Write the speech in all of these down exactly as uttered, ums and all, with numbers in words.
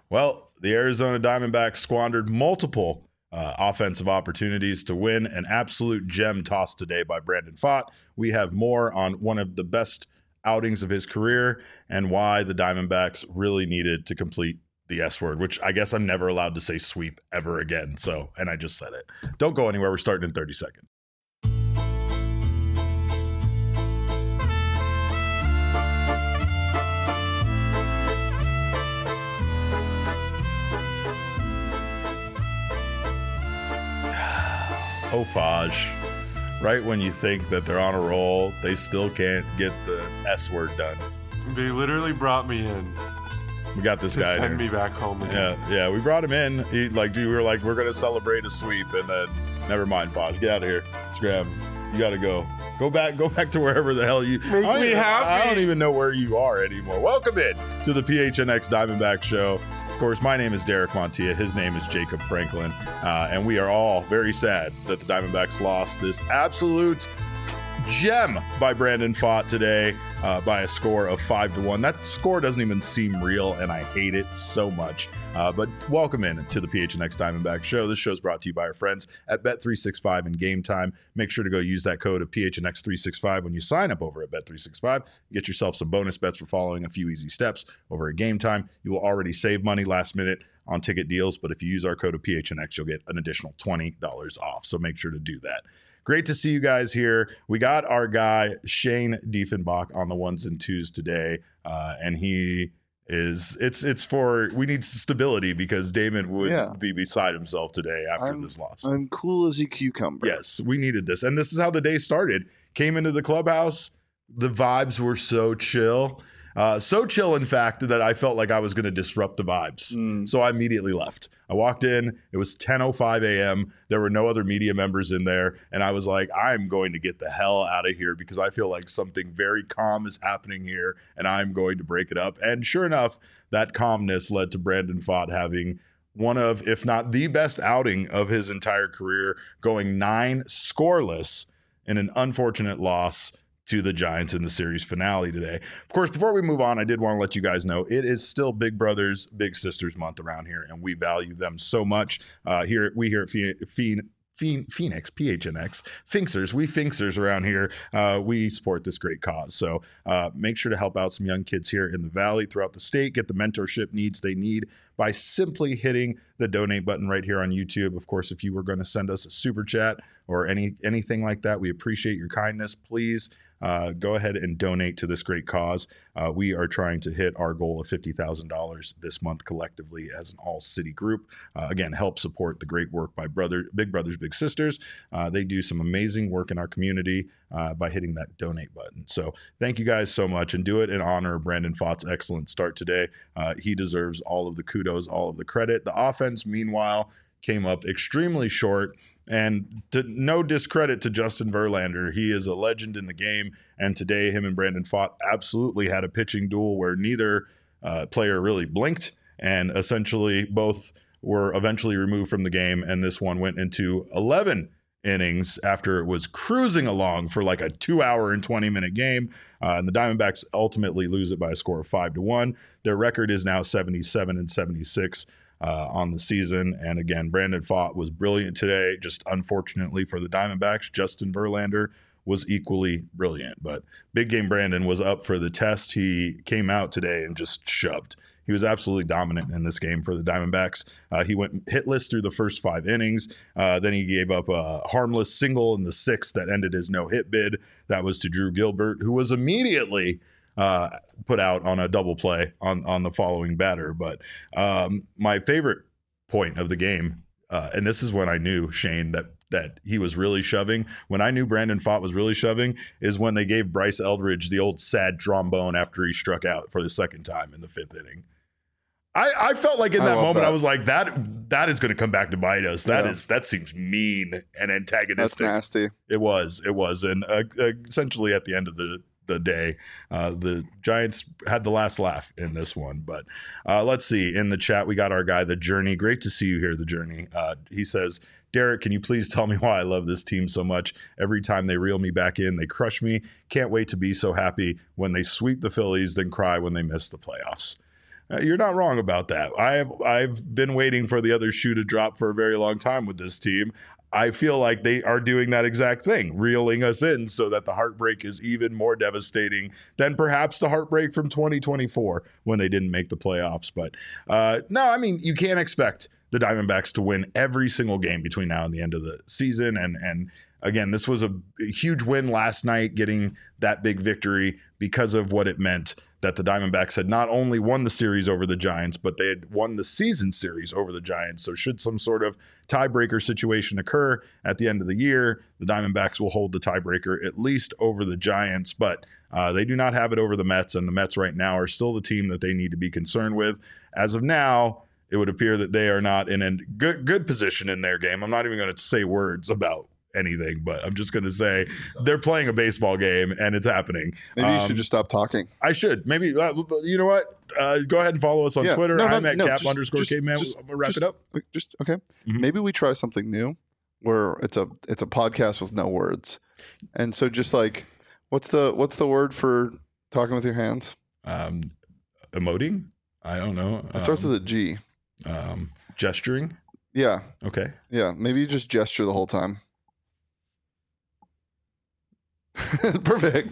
Well, the Arizona Diamondbacks squandered multiple uh, offensive opportunities to win an absolute gem toss today by Brandon Pfaadt. We have more on one of the best outings of his career and why the Diamondbacks really needed to complete the S word, which I guess I'm never allowed to say sweep ever again. So, and I just said it. Don't go anywhere. We're starting in thirty seconds. Oh, Faj. Right when you think that they're on a roll, they still can't get the S word done. They literally brought me in. We got this to guy. Send here. me back home Yeah, again. yeah. We brought him in. He like, we were like, we're gonna celebrate a sweep, and then never mind, Faj. Get out of here. Scram. You gotta go. Go back. Go back to wherever the hell you. Make I me even, happy. I don't even know where you are anymore. Welcome in to the P H N X Diamondback Show. Of course, my name is Derek Montilla. His name is Jacob Franklin. Uh, and we are all very sad that the Diamondbacks lost this absolute gem by Brandon Pfaadt today uh, by a score of five to one. That score doesn't even seem real, and I hate it so much. Uh, but welcome in to the P H N X Diamondback Show. This show is brought to you by our friends at Bet three sixty-five and Game Time. Make sure to go use that code of P H N X three sixty-five when you sign up over at Bet three sixty-five. Get yourself some bonus bets for following a few easy steps over at Game Time. You will already save money last minute on ticket deals, but if you use our code of P H N X, you'll get an additional twenty dollars off. So make sure to do that. Great to see you guys here. We got our guy, Shane Diefenbach, on the ones and twos today. Uh, and he is, it's it's for, we need stability because Damon would Yeah. be beside himself today after I'm, this loss. I'm cool as a cucumber. Yes, we needed this. And this is how the day started. Came into the clubhouse. The vibes were so chill. Uh, so chill, in fact, that I felt like I was going to disrupt the vibes. Mm. So I immediately left. I walked in. It was ten oh five a.m. There were no other media members in there. And I was like, I'm going to get the hell out of here because I feel like something very calm is happening here and I'm going to break it up. And sure enough, that calmness led to Brandon Pfaadt having one of, if not the best outing of his entire career, going nine scoreless in an unfortunate loss to the Giants in the series finale today. Of course, before we move on, I did want to let you guys know it is still Big Brothers, Big Sisters month around here, and we value them so much. Uh, here, we here at Phe- Phe- Phe- Phoenix, P H N X, Finksers, we Finksers around here, uh, we support this great cause. So uh, make sure to help out some young kids here in the Valley, throughout the state, get the mentorship needs they need by simply hitting the donate button right here on YouTube. Of course, if you were going to send us a super chat or any anything like that, we appreciate your kindness. Please Uh, go ahead and donate to this great cause. Uh, we are trying to hit our goal of fifty thousand dollars this month collectively as an all-city group. Uh, again, help support the great work by brother, Big Brothers, Big Sisters. Uh, they do some amazing work in our community uh, by hitting that donate button. So thank you guys so much, and do it in honor of Brandon Pfaadt's excellent start today. Uh, he deserves all of the kudos, all of the credit. The offense, meanwhile, came up extremely short. And to, no discredit to Justin Verlander. He is a legend in the game. And today, him and Brandon Pfaadt absolutely had a pitching duel where neither uh, player really blinked. And essentially, both were eventually removed from the game. And this one went into eleven innings after it was cruising along for like a two hour and twenty minute game. Uh, and the Diamondbacks ultimately lose it by a score of five to one. Their record is now seventy-seven and seventy-six. Uh, on the season. And again, Brandon Pfaadt was brilliant today. Just unfortunately for the Diamondbacks, Justin Verlander was equally brilliant. But Big Game Brandon was up for the test. He came out today and just shoved. He was absolutely dominant in this game for the Diamondbacks. Uh, he went hitless through the first five innings. Uh, then he gave up a harmless single in the sixth that ended his no-hit bid. That was to Drew Gilbert, who was immediately Uh, put out on a double play on, on the following batter. But um, my favorite point of the game, uh, and this is when I knew, Shane, that that he was really shoving. When I knew Brandon Pfaadt was really shoving is when they gave Bryce Eldridge the old sad trombone after he struck out for the second time in the fifth inning. I, I felt like in I that love moment, that. I was like, that that is going to come back to bite us. That Yeah. is that seems mean and That's antagonistic. nasty. It was, it was. And uh, uh, essentially at the end of the the day. Uh, the Giants had the last laugh in this one. But uh, let's see. In the chat, we got our guy, The Journey. Great to see you here, The Journey. Uh, he says, Derek, can you please tell me why I love this team so much? Every time they reel me back in, they crush me. Can't wait to be so happy when they sweep the Phillies, then cry when they miss the playoffs. Uh, you're not wrong about that. I have I've been waiting for the other shoe to drop for a very long time with this team. I feel like they are doing that exact thing, reeling us in so that the heartbreak is even more devastating than perhaps the heartbreak from twenty twenty-four when they didn't make the playoffs. But uh, no, I mean, you can't expect the Diamondbacks to win every single game between now and the end of the season. And and again, this was a, a huge win last night, getting that big victory because of what it meant that the Diamondbacks had not only won the series over the Giants, but they had won the season series over the Giants. So should some sort of tiebreaker situation occur at the end of the year, the Diamondbacks will hold the tiebreaker at least over the Giants, but uh, they do not have it over the Mets, and the Mets right now are still the team that they need to be concerned with. As of now, it would appear that they are not in a good, good position in their game. I'm not even going to say words about anything, but I'm just going to say they're playing a baseball game and it's happening. Maybe you um, should just stop talking. I should. Maybe, uh, you know what? Uh, go ahead and follow us on Yeah. Twitter. No, no, I'm at no, cap just- underscore just- caveman. just- I'm going to wrap just- it up. Just okay. Mhm. Maybe we try something new where it's a it's a podcast with no words. And so just like what's the what's the word for talking with your hands? Um, emoting? I don't know. It starts Um, with a G. um, gesturing. Yeah. Okay. Yeah. Maybe you just gesture the whole time. Perfect.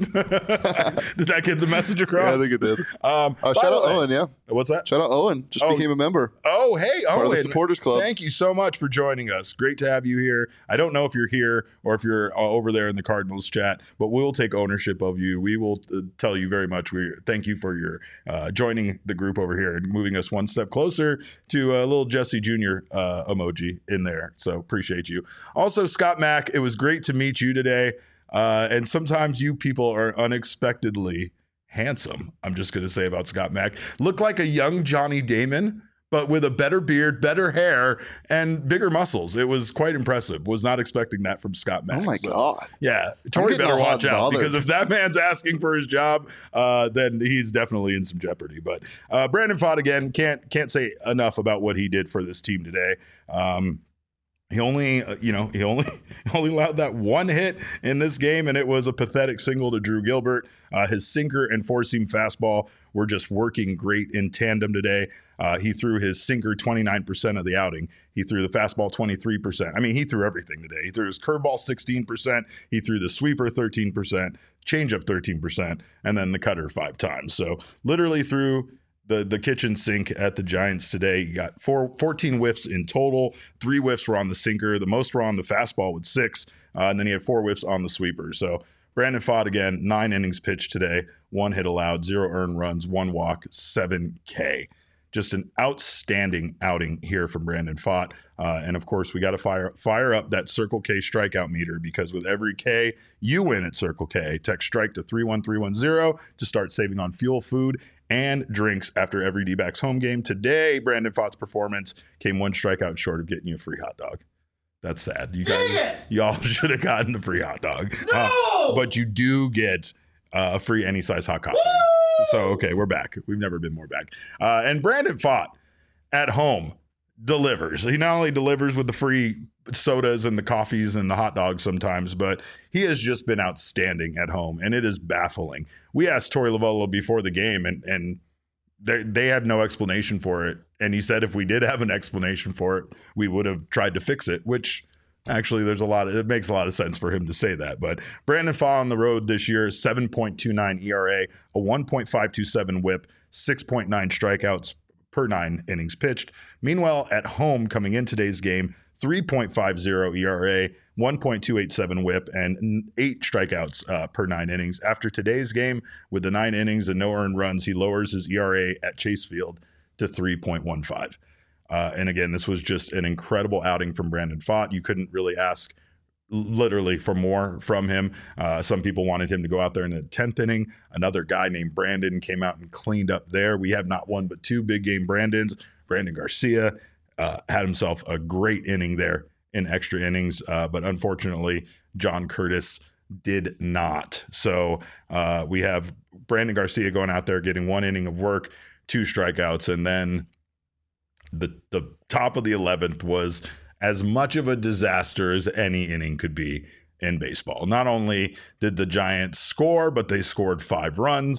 Did that get the message across? Yeah, I think it did. Um, Uh, by shout the out way- Owen, yeah. What's that? Shout out Owen. Just Oh. became a member. Oh, hey, Part of the Owen. supporters club. Thank you so much for joining us. Great to have you here. I don't know if you're here or if you're uh, over there in the Cardinals chat, but we'll take ownership of you. We will uh, tell you very much. We thank you for your uh, joining the group over here and moving us one step closer to a little Jesse Junior uh, emoji in there. So appreciate you. Also, Scott Mack, it was great to meet you today. Uh, and sometimes you people are unexpectedly handsome. I'm just going to say about Scott Mack. Looked like a young Johnny Damon, but with a better beard, better hair, and bigger muscles. It was quite impressive. Was not expecting that from Scott Mack. Oh my So, God. yeah, Tori getting better all hot watch and out bothered. because if that man's asking for his job, uh, then he's definitely in some jeopardy. But uh, Brandon Pfaadt again can't can't say enough about what he did for this team today. Um, He only, uh, you know, he only only allowed that one hit in this game, and it was a pathetic single to Drew Gilbert. Uh, his sinker and four-seam fastball were just working great in tandem today. Uh, he threw his sinker twenty-nine percent of the outing. He threw the fastball twenty-three percent. I mean, he threw everything today. He threw his curveball sixteen percent. He threw the sweeper thirteen percent, changeup thirteen percent, and then the cutter five times. So literally threw the the kitchen sink at the Giants today. You got four, fourteen whiffs in total. Three whiffs were on the sinker. The most were on the fastball with six. Uh, and then he had four whiffs on the sweeper. So Brandon Pfaadt again, nine innings pitched today, one hit allowed, zero earned runs, one walk, seven K. Just an outstanding outing here from Brandon Pfaadt. Uh, and of course, we got to fire fire up that Circle K strikeout meter, because with every K you win at Circle K, text strike to three one three one zero to start saving on fuel, food, and drinks after every D-backs home game. Today, Brandon Pfaadt's performance came one strikeout short of getting you a free hot dog. That's sad. You got, y'all should have gotten a free hot dog. No! Uh, but you do get uh, a free any size hot coffee. Woo! So, okay, we're back. We've never been more back. Uh, and Brandon Pfaadt at home delivers. He not only delivers with the free sodas and the coffees and the hot dogs sometimes, but he has just been outstanding at home, and it is baffling. We asked Torey Lovullo before the game, and and they they had no explanation for it. And he said if we did have an explanation for it, we would have tried to fix it, which actually there's a lot of, it makes a lot of sense for him to say that. But Brandon Pfaadt on the road this year, seven point two nine E R A, a one point five two seven whip, six point nine strikeouts per nine innings pitched. Meanwhile, at home coming in today's game, three point five oh E R A, one point two eight seven whip, and eight strikeouts uh, per nine innings. After today's game, with the nine innings and no earned runs, he lowers his E R A at Chase Field to three point one five. Uh, and again, this was just an incredible outing from Brandon Pfaadt. You couldn't really ask literally for more from him. Uh, some people wanted him to go out there in the tenth inning. Another guy named Brandon came out and cleaned up there. We have not one but two big game Brandons. Brandon Garcia uh, had himself a great inning there in extra innings, uh, but unfortunately, John Curtis did not. So uh, we have Brandon Garcia going out there getting one inning of work, two strikeouts, and then the the top of the eleventh was as much of a disaster as any inning could be in baseball. Not only did the Giants score, but they scored five runs.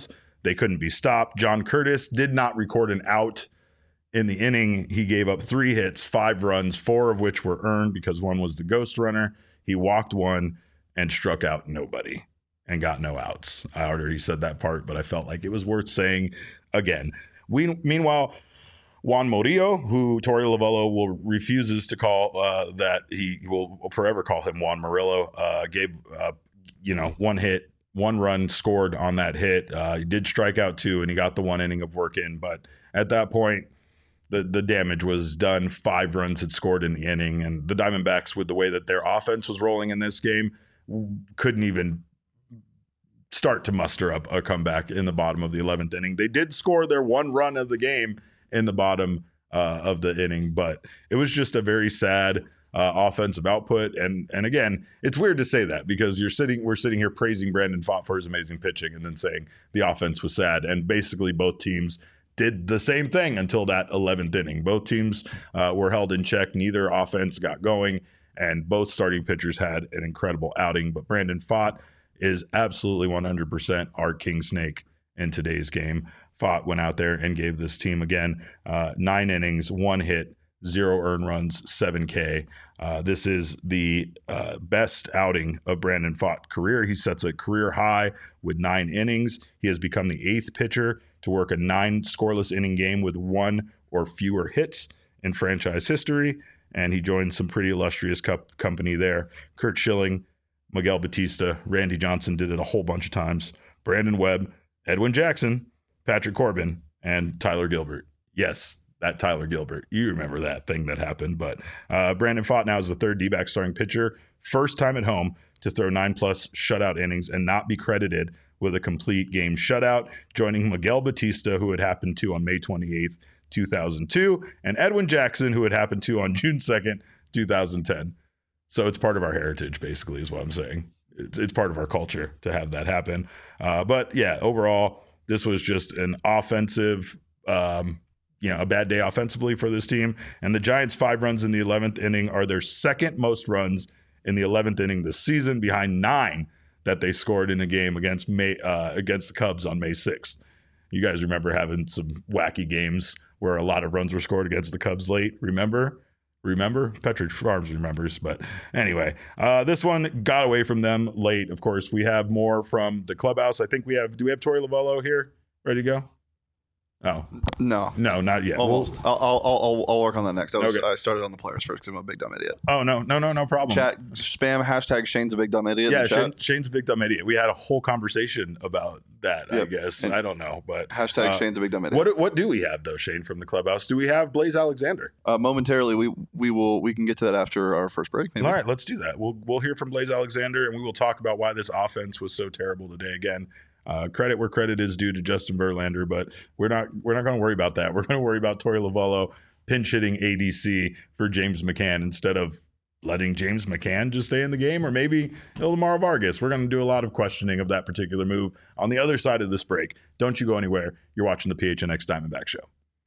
they couldn't be stopped. John Curtis did not record an out in the inning. He gave up three hits, five runs, four of which were earned because one was the ghost runner. He walked one and struck out nobody and got no outs. I already said that part, but I felt like it was worth saying again. We, meanwhile, Juan Murillo, who Torey Lovullo will refuses to call uh, that, he will forever call him Juan Murillo, uh, gave uh, you know one hit, one run scored on that hit. Uh, he did strike out two, and he got the one inning of work in. But at that point, the the damage was done. Five runs had scored in the inning, and the Diamondbacks, with the way that their offense was rolling in this game, couldn't even start to muster up a comeback in the bottom of the eleventh inning. They did score their one run of the game in the bottom uh, of the inning, but it was just a very sad uh, offensive output. And and again, it's weird to say that because you're sitting, we're sitting here praising Brandon Pfaadt for his amazing pitching, and then saying the offense was sad. And basically, both teams did the same thing until that eleventh inning. Both teams uh, were held in check. Neither offense got going, and both starting pitchers had an incredible outing. But Brandon Pfaadt is absolutely one hundred percent our king snake in today's game. Pfaadt went out there and gave this team, again, uh, nine innings, one hit, zero earned runs, seven K. Uh, this is the uh, best outing of Brandon Pfaadt's career. He sets a career high with nine innings. He has become the eighth pitcher to work a nine scoreless inning game with one or fewer hits in franchise history, and he joined some pretty illustrious cup company there. Curt Schilling, Miguel Batista, Randy Johnson did it a whole bunch of times. Brandon Webb, Edwin Jackson, Patrick Corbin, and Tyler Gilbert. Yes, that Tyler Gilbert. You remember that thing that happened. But uh, Brandon Pfaadt now is the third D-back starting pitcher, first time at home to throw nine-plus shutout innings and not be credited with a complete game shutout, joining Miguel Batista, who it happened to on May twenty-eighth, two thousand two, and Edwin Jackson, who it happened to on June second, two thousand ten. So it's part of our heritage, basically, is what I'm saying. It's, it's part of our culture to have that happen. Uh, but, yeah, overall, this was just an offensive, um, you know, a bad day offensively for this team. And the Giants' five runs in the eleventh inning are their second most runs in the eleventh inning this season, behind nine that they scored in a game against May uh, against the Cubs on May sixth. You guys remember having some wacky games where a lot of runs were scored against the Cubs late, remember? Remember? Petridge Farms remembers. But anyway, uh, this one got away from them late. Of course, we have more from the clubhouse. I think we have, do we have Torey Lovullo here? Ready to go? Oh. No. No, not yet. Almost. We'll, I'll, I'll, I'll, I'll work on that next. I, was, Okay. I started on the players first because I'm a big dumb idiot. oh, no, no, no, no problem. Chat, spam, hashtag Shane's a big dumb idiot. in Yeah, the chat. Shane, Shane's a big dumb idiot. We had a whole conversation about that, Yep. I guess. And I don't know. But Hashtag uh, Shane's a big dumb idiot. what what do we have, though, Shane, from the clubhouse? Do we have Blaze Alexander? Uh, momentarily, we we will we can get to that after our first break. Maybe. All right, let's do that. We'll we'll hear from Blaze Alexander, and we will talk about why this offense was so terrible today. Again, uh, credit where credit is due to Justin Verlander, but we're not we're not going to worry about that. We're going to worry about Torey Lovullo pinch hitting A D C for James McCann instead of letting James McCann just stay in the game, or maybe Ildemar Vargas. We're going to do a lot of questioning of that particular move on the other side of this break. Don't you go anywhere. You're watching the P H N X Diamondback Show.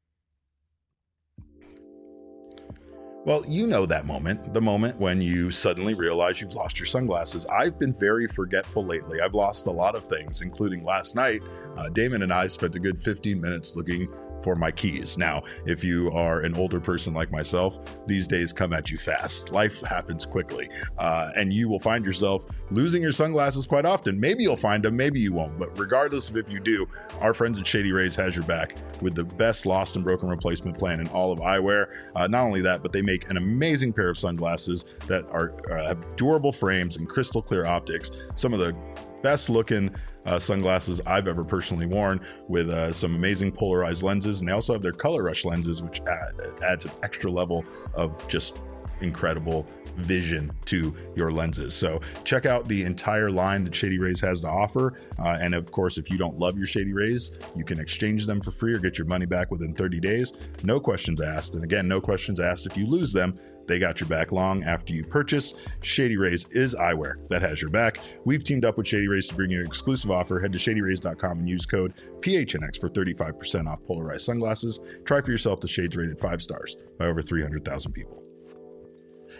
Well, you know that moment, the moment when you suddenly realize you've lost your sunglasses. I've been very forgetful lately. I've lost a lot of things, including last night. Uh, Damon and I spent a good fifteen minutes looking for my keys. Now, if you are an older person like myself, these days come at you fast. Life happens quickly, uh, and you will find yourself losing your sunglasses quite often. Maybe you'll find them, maybe you won't. But regardless of if you do, our friends at Shady Rays has your back with the best lost and broken replacement plan in all of eyewear. Uh, not only that, but they make an amazing pair of sunglasses that are uh, have durable frames and crystal clear optics. Some of the best looking uh, sunglasses I've ever personally worn, with uh, some amazing polarized lenses. And they also have their color rush lenses, which add, adds an extra level of just incredible vision to your lenses. So check out the entire line that Shady Rays has to offer. Uh, and of course, if you don't love your Shady Rays, you can exchange them for free or get your money back within thirty days. No questions asked. And again, no questions asked if you lose them. They got your back long after you purchase. Shady Rays is eyewear that has your back. We've teamed up with Shady Rays to bring you an exclusive offer. Head to shady rays dot com and use code P H N X for thirty-five percent off polarized sunglasses. Try for yourself the shades rated five stars by over three hundred thousand people.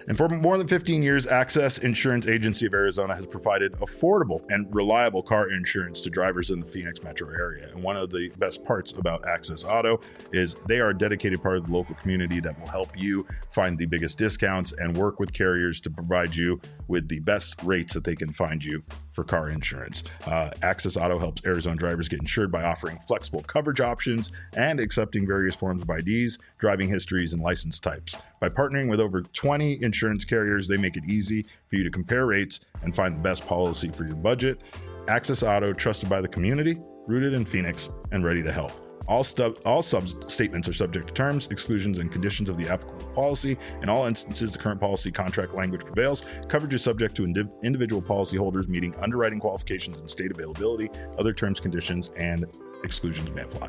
And for more than fifteen years, Access Insurance Agency of Arizona has provided affordable and reliable car insurance to drivers in the Phoenix metro area. And one of the best parts about Access Auto is they are a dedicated part of the local community that will help you find the biggest discounts and work with carriers to provide you with the best rates that they can find you for car insurance. Uh, Access Auto helps Arizona drivers get insured by offering flexible coverage options and accepting various forms of I Ds, driving histories, and license types. By partnering with over twenty insurance carriers, they make it easy for you to compare rates and find the best policy for your budget. Access Auto, trusted by the community, rooted in Phoenix, and ready to help. All, stub, all sub statements are subject to terms, exclusions, and conditions of the applicable policy. In all instances, the current policy contract language prevails. Coverage is subject to indiv individual policyholders meeting underwriting qualifications and state availability. Other terms, conditions, and exclusions may apply.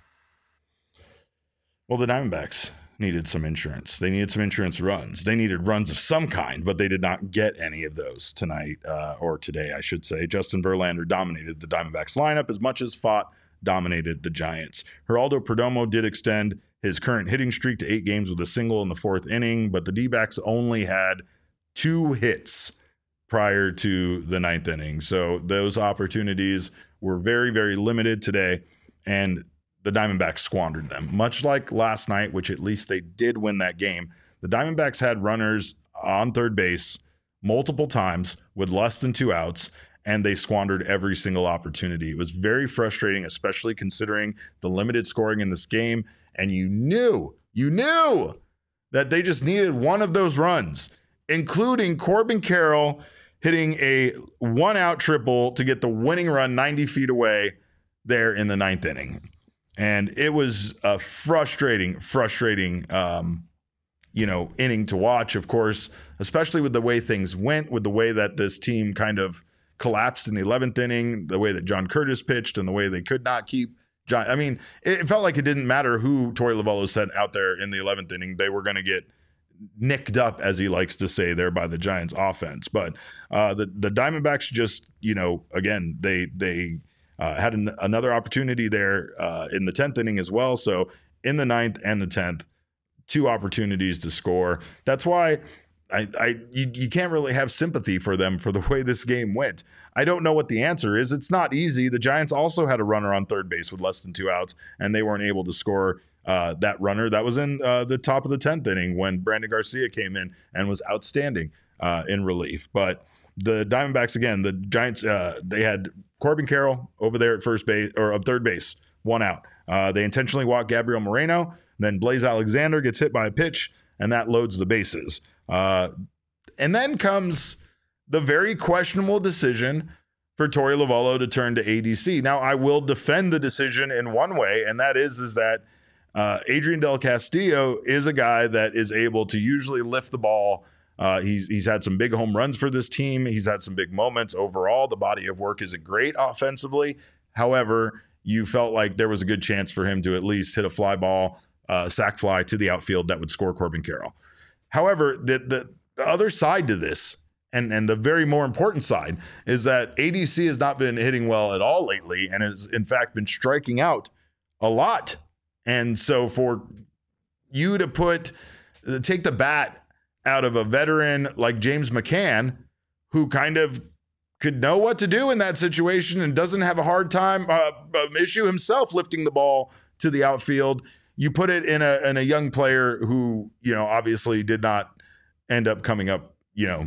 Well, the Diamondbacks needed some insurance. They needed some insurance runs. They needed runs of some kind, but they did not get any of those tonight, uh, or today, I should say. Justin Verlander dominated the Diamondbacks lineup as much as Pfaadt dominated the Giants. Geraldo Perdomo did extend his current hitting streak to eight games with a single in the fourth inning, but the D-backs only had two hits prior to the ninth inning. So those opportunities were very, very limited today, and the Diamondbacks squandered them. Much like last night, which at least they did win that game, the Diamondbacks had runners on third base multiple times with less than two outs, and they squandered every single opportunity. It was very frustrating, especially considering the limited scoring in this game. And you knew, you knew that they just needed one of those runs, including Corbin Carroll hitting a one-out triple to get the winning run ninety feet away there in the ninth inning. And it was a frustrating, frustrating, um, you know, inning to watch, of course, especially with the way things went, with the way that this team kind of collapsed in the eleventh inning, the way that John Curtis pitched and the way they could not keep John. I mean, it felt like it didn't matter who Torey Lovullo sent out there in the eleventh inning. They were going to get nicked up, as he likes to say, there by the Giants offense. But uh, the, the Diamondbacks just, you know, again, they, they uh, had an, another opportunity there uh, in the tenth inning as well. So in the ninth and the tenth, two opportunities to score. That's why I, I you, you can't really have sympathy for them for the way this game went. I don't know what the answer is. It's not easy. The Giants also had a runner on third base with less than two outs, and they weren't able to score uh, that runner. That was in uh, the top of the tenth inning when Brandon Garcia came in and was outstanding uh, in relief. But the Diamondbacks, again, the Giants, uh, they had Corbin Carroll over there at first base or at third base, one out. Uh, they intentionally walked Gabriel Moreno. Then Blaze Alexander gets hit by a pitch, and that loads the bases. Uh, and then comes the very questionable decision for Torey Lovullo to turn to A D C. Now, I will defend the decision in one way, and that is, is that uh, Adrian Del Castillo is a guy that is able to usually lift the ball. Uh, he's, he's had some big home runs for this team. He's had some big moments. Overall, the body of work isn't great offensively. However, you felt like there was a good chance for him to at least hit a fly ball, uh, sac fly to the outfield that would score Corbin Carroll. However, the, the, the other side to this, and, and the very more important side, is that A D C has not been hitting well at all lately and has, in fact, been striking out a lot. And so for you to put, take the bat out of a veteran like James McCann, who kind of could know what to do in that situation and doesn't have a hard time, uh, issue himself lifting the ball to the outfield, you put it in a in a young player who, you know, obviously did not end up coming up, you know,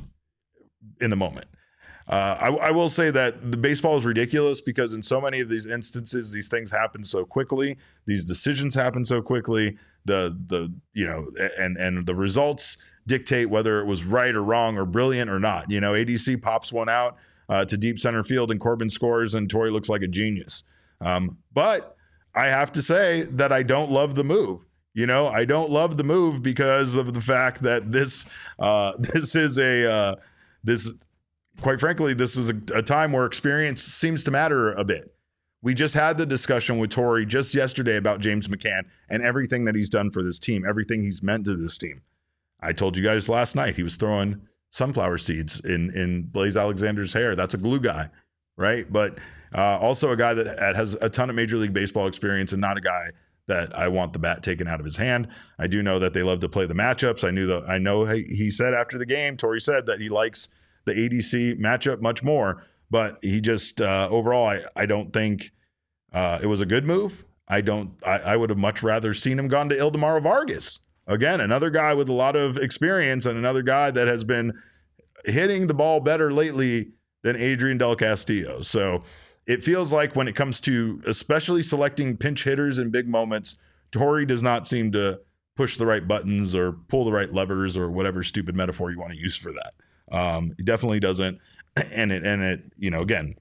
in the moment. Uh, I, I will say that the baseball is ridiculous because in so many of these instances, these things happen so quickly. These decisions happen so quickly. The the you know, and and the results dictate whether it was right or wrong or brilliant or not. You know, A D C pops one out uh, to deep center field and Corbin scores and Torey looks like a genius. Um, but I have to say that I don't love the move. You know, I don't love the move because of the fact that this uh, this is a uh, this quite frankly, this is a, a time where experience seems to matter a bit. We just had the discussion with Torey just yesterday about James McCann and everything that he's done for this team, everything he's meant to this team. I told you guys last night he was throwing sunflower seeds in in Blaze Alexander's hair. That's a glue guy, right? But uh, also a guy that has a ton of Major League Baseball experience and not a guy that I want the bat taken out of his hand. I do know that they love to play the matchups. I knew that I know he, he said after the game, Torey said that he likes the A D C matchup much more, but he just uh, overall, I, I don't think uh, it was a good move. I don't. I, I would have much rather seen him gone to Ildemaro Vargas. Again, another guy with a lot of experience and another guy that has been hitting the ball better lately than Adrian Del Castillo. So it feels like when it comes to especially selecting pinch hitters in big moments, Torey does not seem to push the right buttons or pull the right levers or whatever stupid metaphor you want to use for that. Um, he definitely doesn't. And it, and it, you know, again,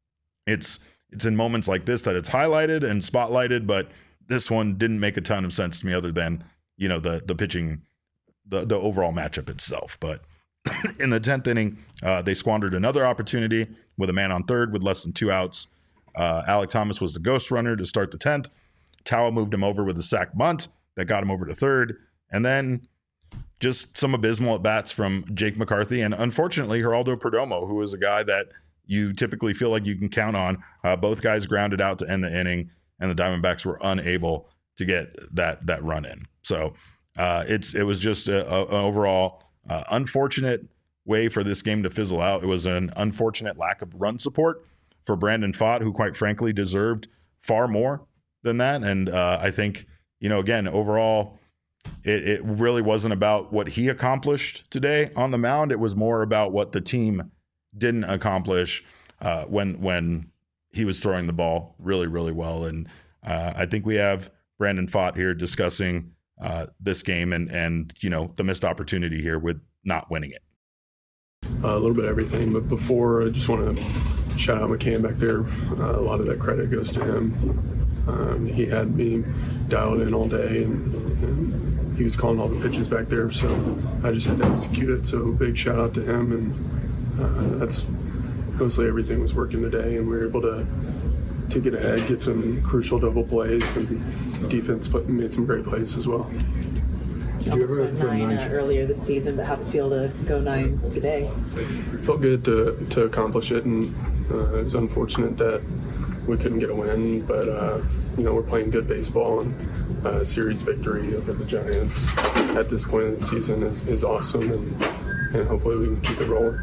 it's, it's in moments like this that it's highlighted and spotlighted, but this one didn't make a ton of sense to me other than, you know, the, the pitching, the, the overall matchup itself. But in the tenth inning, uh, they squandered another opportunity with a man on third with less than two outs. Uh, Alek Thomas was the ghost runner to start the tenth. Tawa moved him over with a sac bunt that got him over to third. And then just some abysmal at-bats from Jake McCarthy and, unfortunately, Geraldo Perdomo, who is a guy that you typically feel like you can count on. Uh, both guys grounded out to end the inning, and the Diamondbacks were unable to get that that run in. So uh, it's it was just a, a, an overall uh, unfortunate way for this game to fizzle out. It was an unfortunate lack of run support for Brandon Pfaadt, who quite frankly deserved far more than that. And uh, I think, you know, again, overall, it, it really wasn't about what he accomplished today on the mound. It was more about what the team didn't accomplish uh, when when he was throwing the ball really, really well. And uh, I think we have Brandon Pfaadt here discussing uh, this game and, and, you know, the missed opportunity here with not winning it. Uh, a little bit of everything, but before, I just want to shout out McCann back there. Uh, a lot of that credit goes to him. Um, he had me dialed in all day, and, and he was calling all the pitches back there, so I just had to execute it. So big shout out to him, and uh, that's mostly everything was working today, and we were able to to get ahead, get some crucial double plays, and defense put, made some great plays as well. You almost went nine uh, earlier this season, but how'd it feel to go nine today? It felt good to, to accomplish it, and uh, it was unfortunate that we couldn't get a win, but uh, you know, we're playing good baseball, and uh, series victory over the Giants at this point in the season is, is awesome, and, and hopefully we can keep it rolling.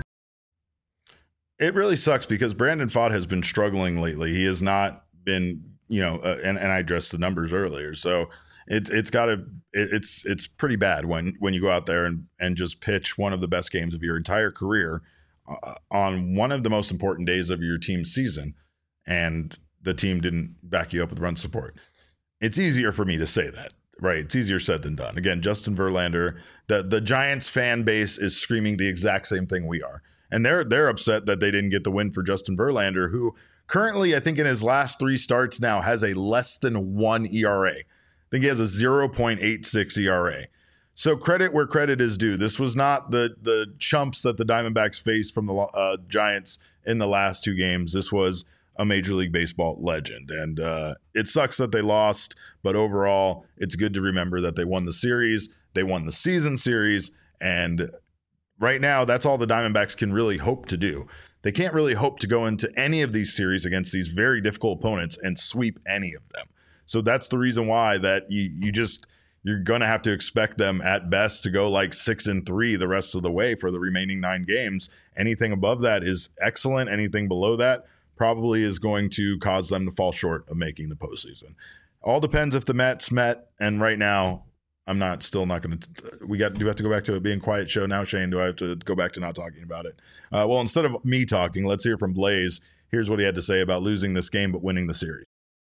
It really sucks because Brandon Pfaadt has been struggling lately. He has not been, you know, uh, and, and I addressed the numbers earlier. So it's it's got to it, it's it's pretty bad when when you go out there and and just pitch one of the best games of your entire career uh, on one of the most important days of your team's season, and the team didn't back you up with run support. It's easier for me to say that, right? It's easier said than done. Again, Justin Verlander, the the Giants fan base is screaming the exact same thing we are. And they're they're upset that they didn't get the win for Justin Verlander, who currently, I think in his last three starts now, has a less than one E R A. I think he has a zero point eight six E R A. So credit where credit is due. This was not the the chumps that the Diamondbacks faced from the uh, Giants in the last two games. This was a Major League Baseball legend. And uh, it sucks that they lost, but overall, it's good to remember that they won the series, they won the season series, and right now, that's all the Diamondbacks can really hope to do. They can't really hope to go into any of these series against these very difficult opponents and sweep any of them. So that's the reason why that you you just you're going to have to expect them at best to go like six and three the rest of the way for the remaining nine games. Anything above that is excellent. Anything below that probably is going to cause them to fall short of making the postseason. All depends if the Mets met, and right now, I'm not still not going to. We got. Do we have to go back to it being quiet show now, Shane? Do I have to go back to not talking about it? Uh, well, instead of me talking, let's hear from Blaze. Here's what he had to say about losing this game but winning the series.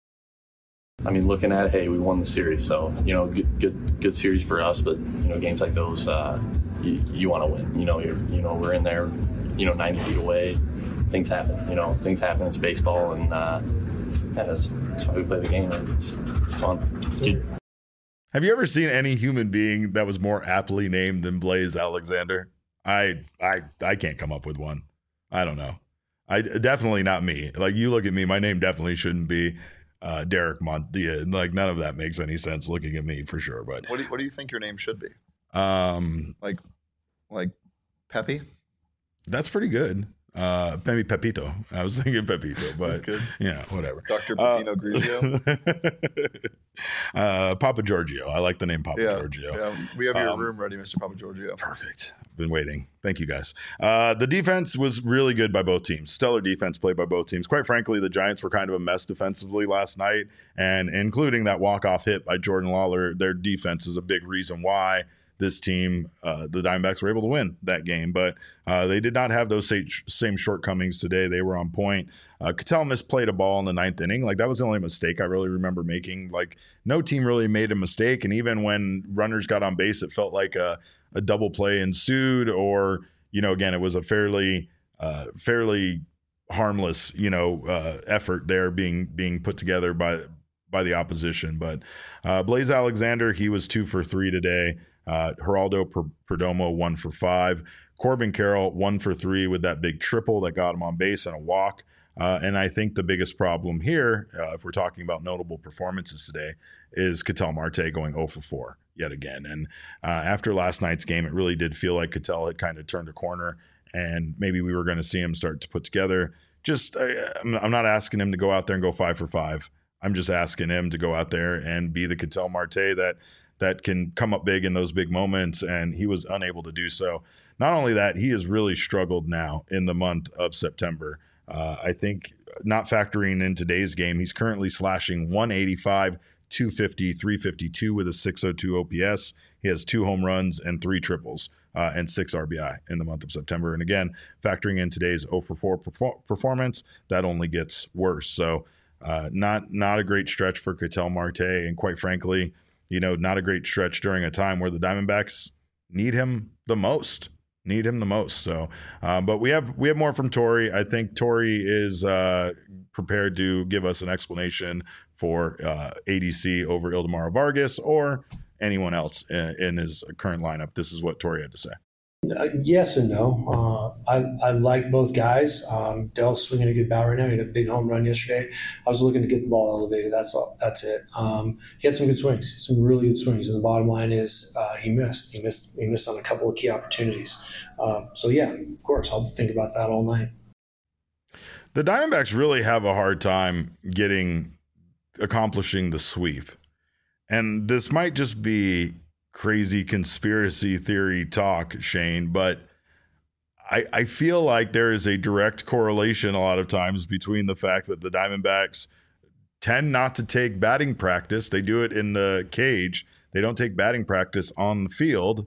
I mean, looking at it, hey, we won the series, so you know, good, good, good series for us. But you know, games like those, uh, you, you want to win. You know, you're, you know, we're in there, you know, ninety feet away. Things happen. You know, things happen. It's baseball, and uh, yeah, that's, that's why we play the game. It's, it's fun. Dude. Have you ever seen any human being that was more aptly named than Blaze Alexander? I I I can't come up with one. I don't know. I definitely not me. Like, you look at me, my name definitely shouldn't be uh, Derek Montilla. Like, none of that makes any sense looking at me for sure. But What do you, what do you think your name should be? um, Like, like Pepe? that's pretty good. Uh, maybe Pepito. I was thinking Pepito, but good. Yeah, whatever. Doctor Pepino uh, Grigio. uh, Papa Giorgio. I like the name Papa yeah, Giorgio. Yeah, we have your um, room ready, Mister Papa Giorgio. Perfect. Been waiting. Thank you, guys. Uh, the defense was really good by both teams. Stellar defense played by both teams. Quite frankly, the Giants were kind of a mess defensively last night, and including that walk-off hit by Jordan Lawler, their defense is a big reason why this team, uh, the Diamondbacks, were able to win that game. But uh, they did not have those same shortcomings today. They were on point. Uh, Ketel misplayed a ball in the ninth inning. Like, that was the only mistake I really remember making. Like, no team really made a mistake. And even when runners got on base, it felt like a, a double play ensued, or, you know, again, it was a fairly, uh, fairly harmless, you know, uh, effort there being being put together by by the opposition. But uh, Blaze Alexander, he was two for three today. Uh, Geraldo Perdomo, one for five. Corbin Carroll, one for three with that big triple that got him on base and a walk. Uh, and I think the biggest problem here, uh, if we're talking about notable performances today, is Ketel Marte going oh for four yet again. And uh, after last night's game, it really did feel like Ketel had kind of turned a corner, and maybe we were going to see him start to put together. Just, I, I'm not asking him to go out there and go five for five. I'm just asking him to go out there and be the Ketel Marte that that can come up big in those big moments, and he was unable to do so. Not only that, he has really struggled now in the month of September. Uh, I think not factoring in today's game, he's currently slashing one eighty-five, two fifty, three fifty-two with a six oh two O P S. He has two home runs and three triples uh, and six R B I in the month of September. And again, factoring in today's oh for four perfor- performance, that only gets worse. So uh, not not a great stretch for Ketel Marte, and quite frankly, you know, not a great stretch during a time where the Diamondbacks need him the most. Need him the most. So, um, but we have we have more from Torey. I think Torey is uh, prepared to give us an explanation for uh, A D C over Ildemaro Vargas or anyone else in, in his current lineup. This is what Torey had to say. Uh, yes and no. Uh, I, I like both guys. Um, Dell's swinging a good bat right now. He had a big home run yesterday. I was looking to get the ball elevated. That's all. That's it. Um, he had some good swings, some really good swings. And the bottom line is uh, he missed. He missed. He missed on a couple of key opportunities. Uh, so yeah, of course, I'll think about that all night. The Diamondbacks really have a hard time getting accomplishing the sweep, and this might just be crazy conspiracy theory talk, Shane, but I, I feel like there is a direct correlation a lot of times between the fact that the Diamondbacks tend not to take batting practice. They do it in the cage. They don't take batting practice on the field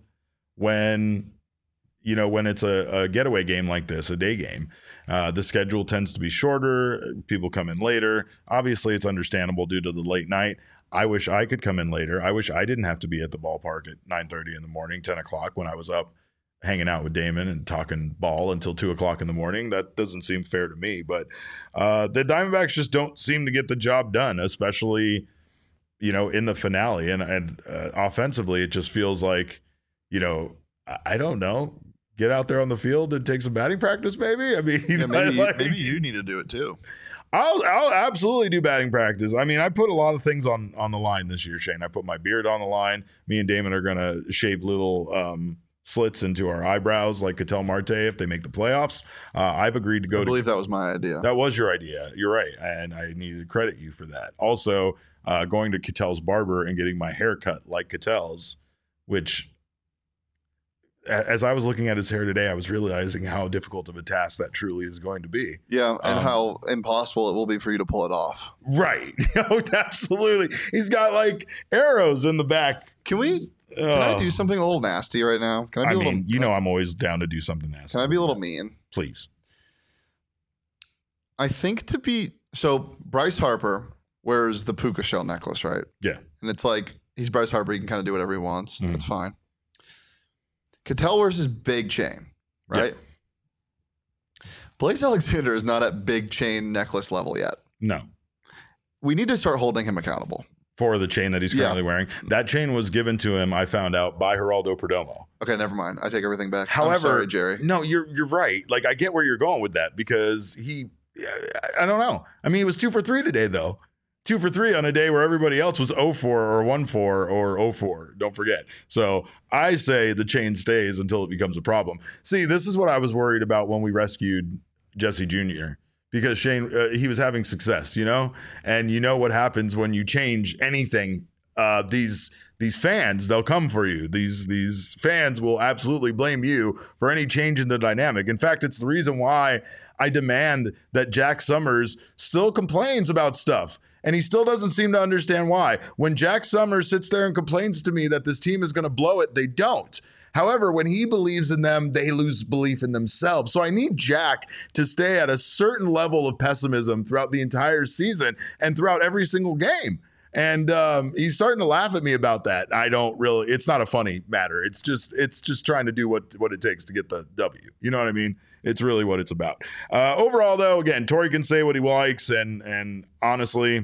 when, you know, when it's a, a getaway game like this, a day game. Uh, the schedule tends to be shorter. People come in later. Obviously, it's understandable due to the late night. I wish I could come in later. I wish I didn't have to be at the ballpark at nine thirty in the morning, ten o'clock when I was up hanging out with Damon and talking ball until two o'clock in the morning. That doesn't seem fair to me. But uh, the Diamondbacks just don't seem to get the job done, especially, you know, in the finale. And, and uh, offensively, it just feels like, you know, I, I don't know, get out there on the field and take some batting practice maybe? I mean, yeah, maybe, like, maybe you need to do it too. I'll I'll absolutely do batting practice. I mean, I put a lot of things on, on the line this year, Shane. I put my beard on the line. Me and Damon are going to shave little um, slits into our eyebrows like Ketel Marte if they make the playoffs. Uh, I've agreed to go I believe to, that was my idea. That was your idea. You're right. And I need to credit you for that. Also, uh, going to Ketel's barber and getting my hair cut like Ketel's, which as I was looking at his hair today, I was realizing how difficult of a task that truly is going to be. Yeah, and um, how impossible it will be for you to pull it off. Right. Oh, absolutely. He's got like arrows in the back. Can we? Can uh, I do something a little nasty right now? Can I be I a little? Mean, you know, I, I'm always down to do something nasty. Can I be a little mean? Please. I think to be so. Bryce Harper wears the puka shell necklace, right? Yeah. And it's like he's Bryce Harper. He can kind of do whatever he wants. Mm. That's fine. Ketel wears his big chain, right? Yeah. Blaze Alexander is not at big chain necklace level yet. No. We need to start holding him accountable. For the chain that he's currently yeah. wearing. That chain was given to him, I found out, by Geraldo Perdomo. Okay, never mind. I take everything back. However, I'm sorry, Jerry. No, you're you're right. Like, I get where you're going with that because he, I, I don't know. I mean, he was two for three today, though. Two for three on a day where everybody else was oh four or one four or oh four. Don't forget. So I say the chain stays until it becomes a problem. See, this is what I was worried about when we rescued Jesse Junior because Shane, uh, he was having success, you know, and you know what happens when you change anything. Uh, these these fans, they'll come for you. These these fans will absolutely blame you for any change in the dynamic. In fact, it's the reason why I demand that Jack Summers still complains about stuff. And he still doesn't seem to understand why. When Jack Summers sits there and complains to me that this team is going to blow it, they don't. However, when he believes in them, they lose belief in themselves. So I need Jack to stay at a certain level of pessimism throughout the entire season and throughout every single game. And um, he's starting to laugh at me about that. I don't really, it's not a funny matter. It's just, it's just trying to do what, what it takes to get the W. You know what I mean? It's really what it's about. Uh, overall, though, again, Torey can say what he likes. And, and honestly,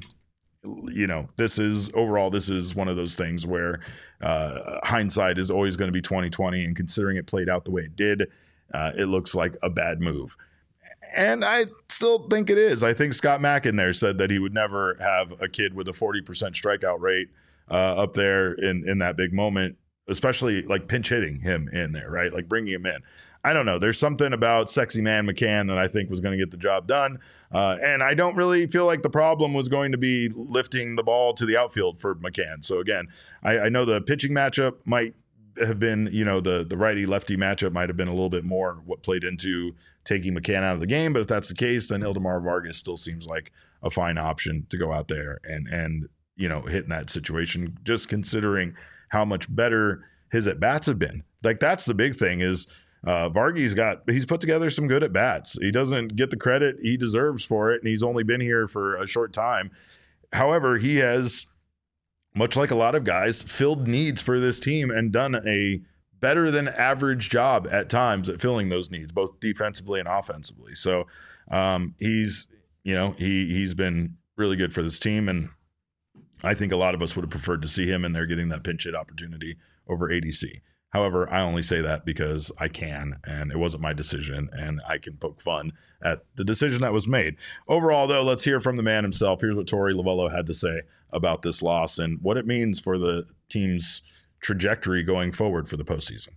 you know, this is overall, this is one of those things where uh, hindsight is always going to be twenty twenty, and considering it played out the way it did, uh, it looks like a bad move. And I still think it is. I think Scott Mack in there said that he would never have a kid with a forty percent strikeout rate uh, up there in, in that big moment, especially like pinch hitting him in there, right? Like bringing him in. I don't know. There's something about sexy man McCann that I think was going to get the job done. Uh, and I don't really feel like the problem was going to be lifting the ball to the outfield for McCann. So again, I, I know the pitching matchup might have been, you know, the, the righty lefty matchup might have been a little bit more what played into taking McCann out of the game. But if that's the case, then Ildemar Vargas still seems like a fine option to go out there and, and, you know, hit in that situation, just considering how much better his at-bats have been. Like that's the big thing is, Uh, Vargy's got, he's put together some good at bats. He doesn't get the credit he deserves for it, and he's only been here for a short time. However, he has, much like a lot of guys, filled needs for this team and done a better than average job at times at filling those needs, both defensively and offensively. So um, he's, you know, he, he's been really good for this team, and I think a lot of us would have preferred to see him in there getting that pinch hit opportunity over A D C. However, I only say that because I can, and it wasn't my decision, and I can poke fun at the decision that was made. Overall, though, let's hear from the man himself. Here's what Torey Lovullo had to say about this loss and what it means for the team's trajectory going forward for the postseason.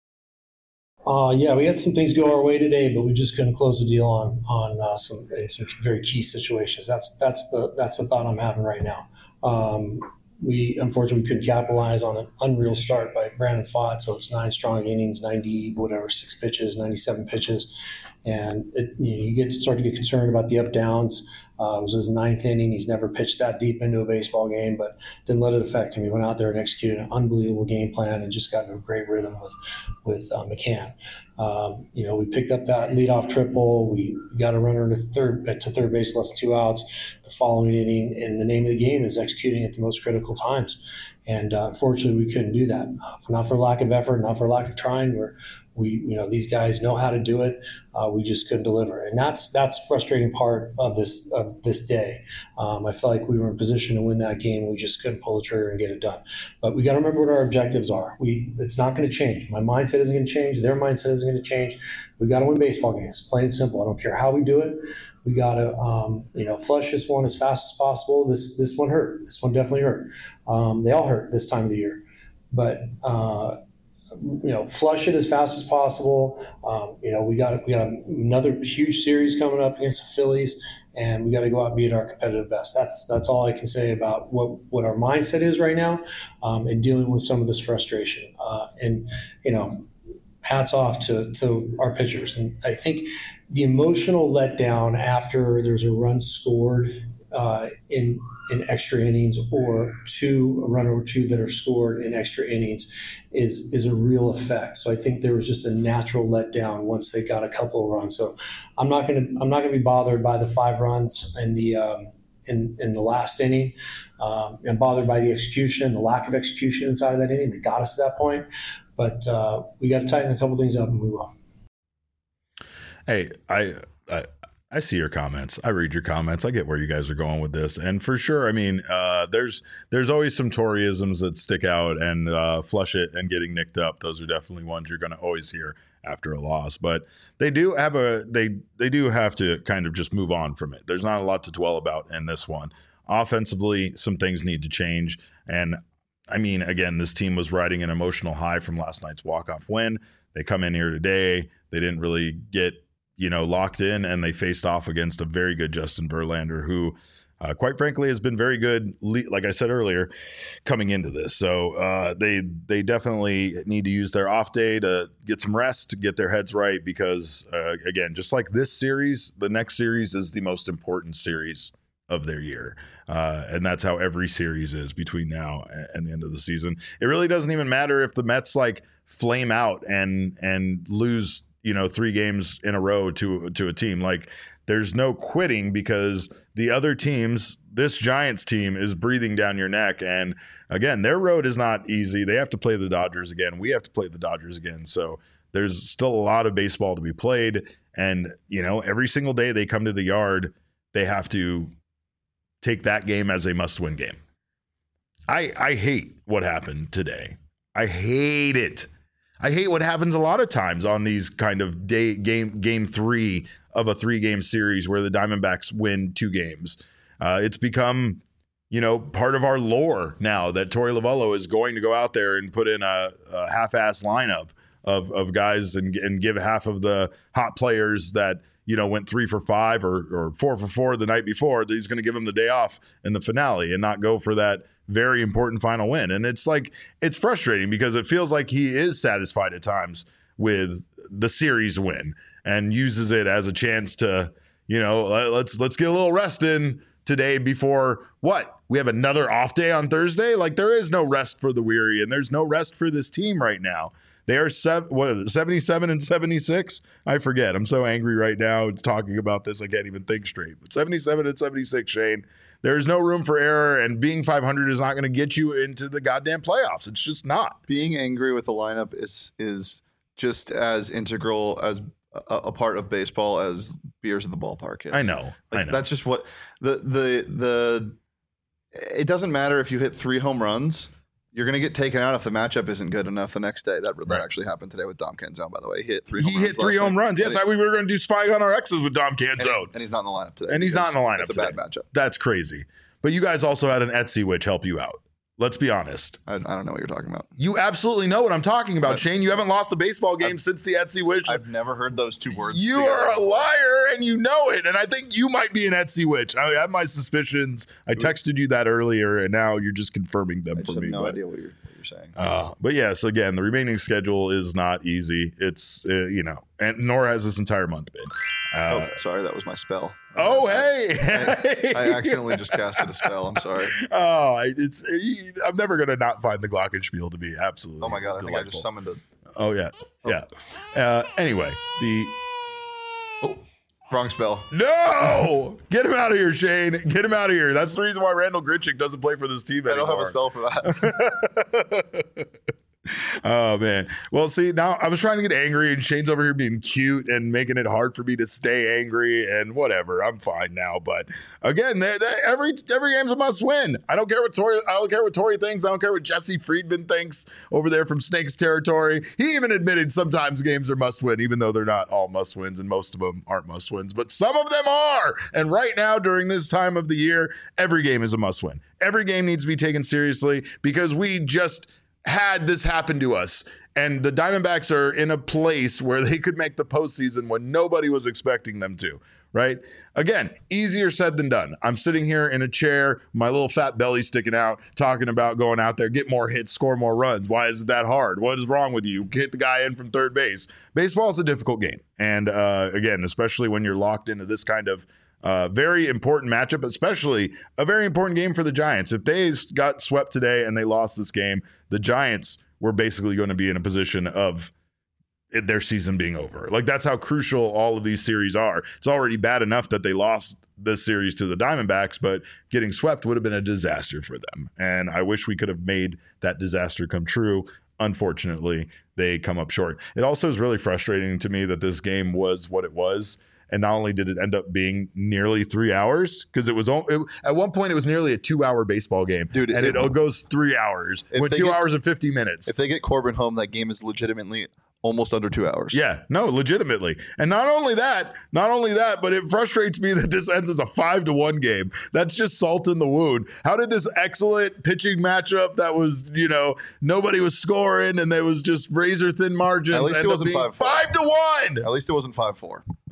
Uh, yeah, we had some things go our way today, but we just couldn't close the deal on on uh, some some very key situations. That's that's the that's the thought I'm having right now. Um, We unfortunately couldn't capitalize on an unreal start by Brandon Pfaadt. So it's nine strong innings, ninety whatever six pitches, ninety-seven pitches, and it, you know, you get to start to get concerned about the up downs. Uh, it was his ninth inning. He's never pitched that deep into a baseball game, but didn't let it affect him. He went out there and executed an unbelievable game plan and just got into a great rhythm with with uh, McCann. Um, you know, we picked up that leadoff triple. We got a runner to third to third base, less than two outs the following inning. And the name of the game is executing at the most critical times. And uh, unfortunately, we couldn't do that. Uh, not for lack of effort, not for lack of trying. We're we you know these guys know how to do it. Uh, we just couldn't deliver, and that's that's the frustrating part of this of this day. Um, I felt like we were in position to win that game. We just couldn't pull the trigger and get it done. But we got to remember what our objectives are. We it's not going to change. My mindset isn't going to change. Their mindset isn't going to change. We got to win baseball games, plain and simple. I don't care how we do it. We got to um, you know flush this one as fast as possible. This this one hurt. This one definitely hurt. Um, they all hurt this time of the year, but. Uh, you know, flush it as fast as possible. Um, you know, we got we got another huge series coming up against the Phillies, and we got to go out and be at our competitive best. That's that's all I can say about what, what our mindset is right now, um, and dealing with some of this frustration. Uh, and you know, hats off to to our pitchers. And I think the emotional letdown after there's a run scored uh, in. in extra innings or two, a run or two that are scored in extra innings is is a real effect. So I think there was just a natural letdown once they got a couple of runs. So I'm not gonna I'm not gonna be bothered by the five runs in the um, in in the last inning. Um, I'm bothered by the execution, the lack of execution inside of that inning that got us to that point. But uh, we got to tighten a couple things up and move on. Hey, I. I I see your comments. I read your comments. I get where you guys are going with this. And for sure, I mean, uh, there's there's always some Toreyisms that stick out, and uh, flush it and getting nicked up. Those are definitely ones you're going to always hear after a loss. But they do have a they they do have to kind of just move on from it. There's not a lot to dwell about in this one. Offensively, some things need to change. And I mean, again, this team was riding an emotional high from last night's walk-off win. They come in here today. They didn't really get you know, locked in, and they faced off against a very good Justin Verlander, who, uh, quite frankly, has been very good, like I said earlier, coming into this. So uh, they they definitely need to use their off day to get some rest, to get their heads right, because, uh, again, just like this series, the next series is the most important series of their year. Uh, and that's how every series is between now and the end of the season. It really doesn't even matter if the Mets like flame out and and lose, you know, three games in a row to to a team. Like, there's no quitting, because the other teams, this Giants team, is breathing down your neck. And again, their road is not easy. They have to play the Dodgers again. We have to play the Dodgers again. So there's still a lot of baseball to be played. And, you know, every single day they come to the yard, they have to take that game as a must-win game. I I hate what happened today. I hate it. I hate what happens a lot of times on these kind of day game game three of a three-game series where the Diamondbacks win two games. Uh, it's become, you know, part of our lore now that Torey Lovullo is going to go out there and put in a, a half-ass lineup of of guys and, and give half of the hot players that, you know, went three for five or, or four for four the night before, that he's going to give them the day off in the finale and not go for that very important final win. And it's like, it's frustrating because it feels like he is satisfied at times with the series win and uses it as a chance to, you know, let's, let's get a little rest in today before what? We have another off day on Thursday. Like, there is no rest for the weary, and there's no rest for this team right now. They are seven, what is it, seventy-seven and seventy-six? I forget. I'm so angry right now talking about this, I can't even think straight. But seventy-seven and seventy-six, Shane. There's no room for error, and being five hundred is not going to get you into the goddamn playoffs. It's just not. Being angry with the lineup is is just as integral as a, a part of baseball as beers at the ballpark is. I know. Like, I know. That's just what the the the. It doesn't matter if you hit three home runs. You're going to get taken out if the matchup isn't good enough the next day. That that right. actually happened today with Dom Canzone, by the way. He hit three home he runs. He hit three home week. runs. Yes, I, we were going to do Spying on Our Exes with Dom Canzone. And he's, and he's not in the lineup today. And he's not in the lineup It's a today. bad matchup. That's crazy. But you guys also had an Etsy witch help you out. Let's be honest. I, I don't know what you're talking about. You absolutely know what I'm talking about, But, Shane. You haven't lost a baseball game I've, since the Etsy witch. I've never heard those two words. You together. are a liar, and you know it. And I think you might be an Etsy witch. I have my suspicions. I texted you that earlier, and now you're just confirming them I just for have me. no but, idea what you're, what you're saying. Uh, but yes, again, the remaining schedule is not easy. It's, uh, you know, and nor has this entire month been. Uh, oh, sorry, that was my spell. Oh, I, hey! I, I accidentally just casted a spell. I'm sorry. Oh, it's. I'm never gonna not find the Glockenspiel to be absolutely. Oh my god! I delightful. think I just summoned it. Oh yeah, yeah. Uh, anyway, the oh, wrong spell. No, get him out of here, Shane. Get him out of here. That's the reason why Randall Gritchick doesn't play for this team I anymore. don't have a spell for that. Oh man. Well, see, now I was trying to get angry, and Shane's over here being cute and making it hard for me to stay angry, and whatever. I'm fine now. But again, they, they, every every game's a must win. I don't care what Torey. I don't care what Torey thinks. I don't care what Jesse Friedman thinks over there from Snakes territory. He even admitted sometimes games are must win, even though they're not all must wins, and most of them aren't must wins. But some of them are. And right now, during this time of the year, every game is a must win. Every game needs to be taken seriously because we just had this happen to us, and the Diamondbacks are in a place where they could make the postseason when nobody was expecting them to, right? Again, easier said than done. I'm sitting here in a chair, my little fat belly sticking out, talking about going out there, get more hits, score more runs. Why is it that hard? What is wrong with you? Get the guy in from third base. Baseball is a difficult game. And uh, again, especially when you're locked into this kind of Uh, very important matchup, especially a very important game for the Giants. If they got swept today and they lost this game, the Giants were basically going to be in a position of it, their season being over. Like, that's how crucial all of these series are. It's already bad enough that they lost this series to the Diamondbacks, but getting swept would have been a disaster for them. And I wish we could have made that disaster come true. Unfortunately, they come up short. It also is really frustrating to me that this game was what it was. And not only did it end up being nearly three hours, because it was it, at one point it was nearly a two-hour baseball game, dude, and it, it goes three hours, with two get, hours and fifty minutes. If they get Corbin home, that game is legitimately almost under two hours. Yeah, no, legitimately. And not only that, not only that, but it frustrates me that this ends as a five to one game. That's just salt in the wound. How did this excellent pitching matchup that was, you know, nobody was scoring and there was just razor thin margins? At least it wasn't five four. Five to one. At least it wasn't five four.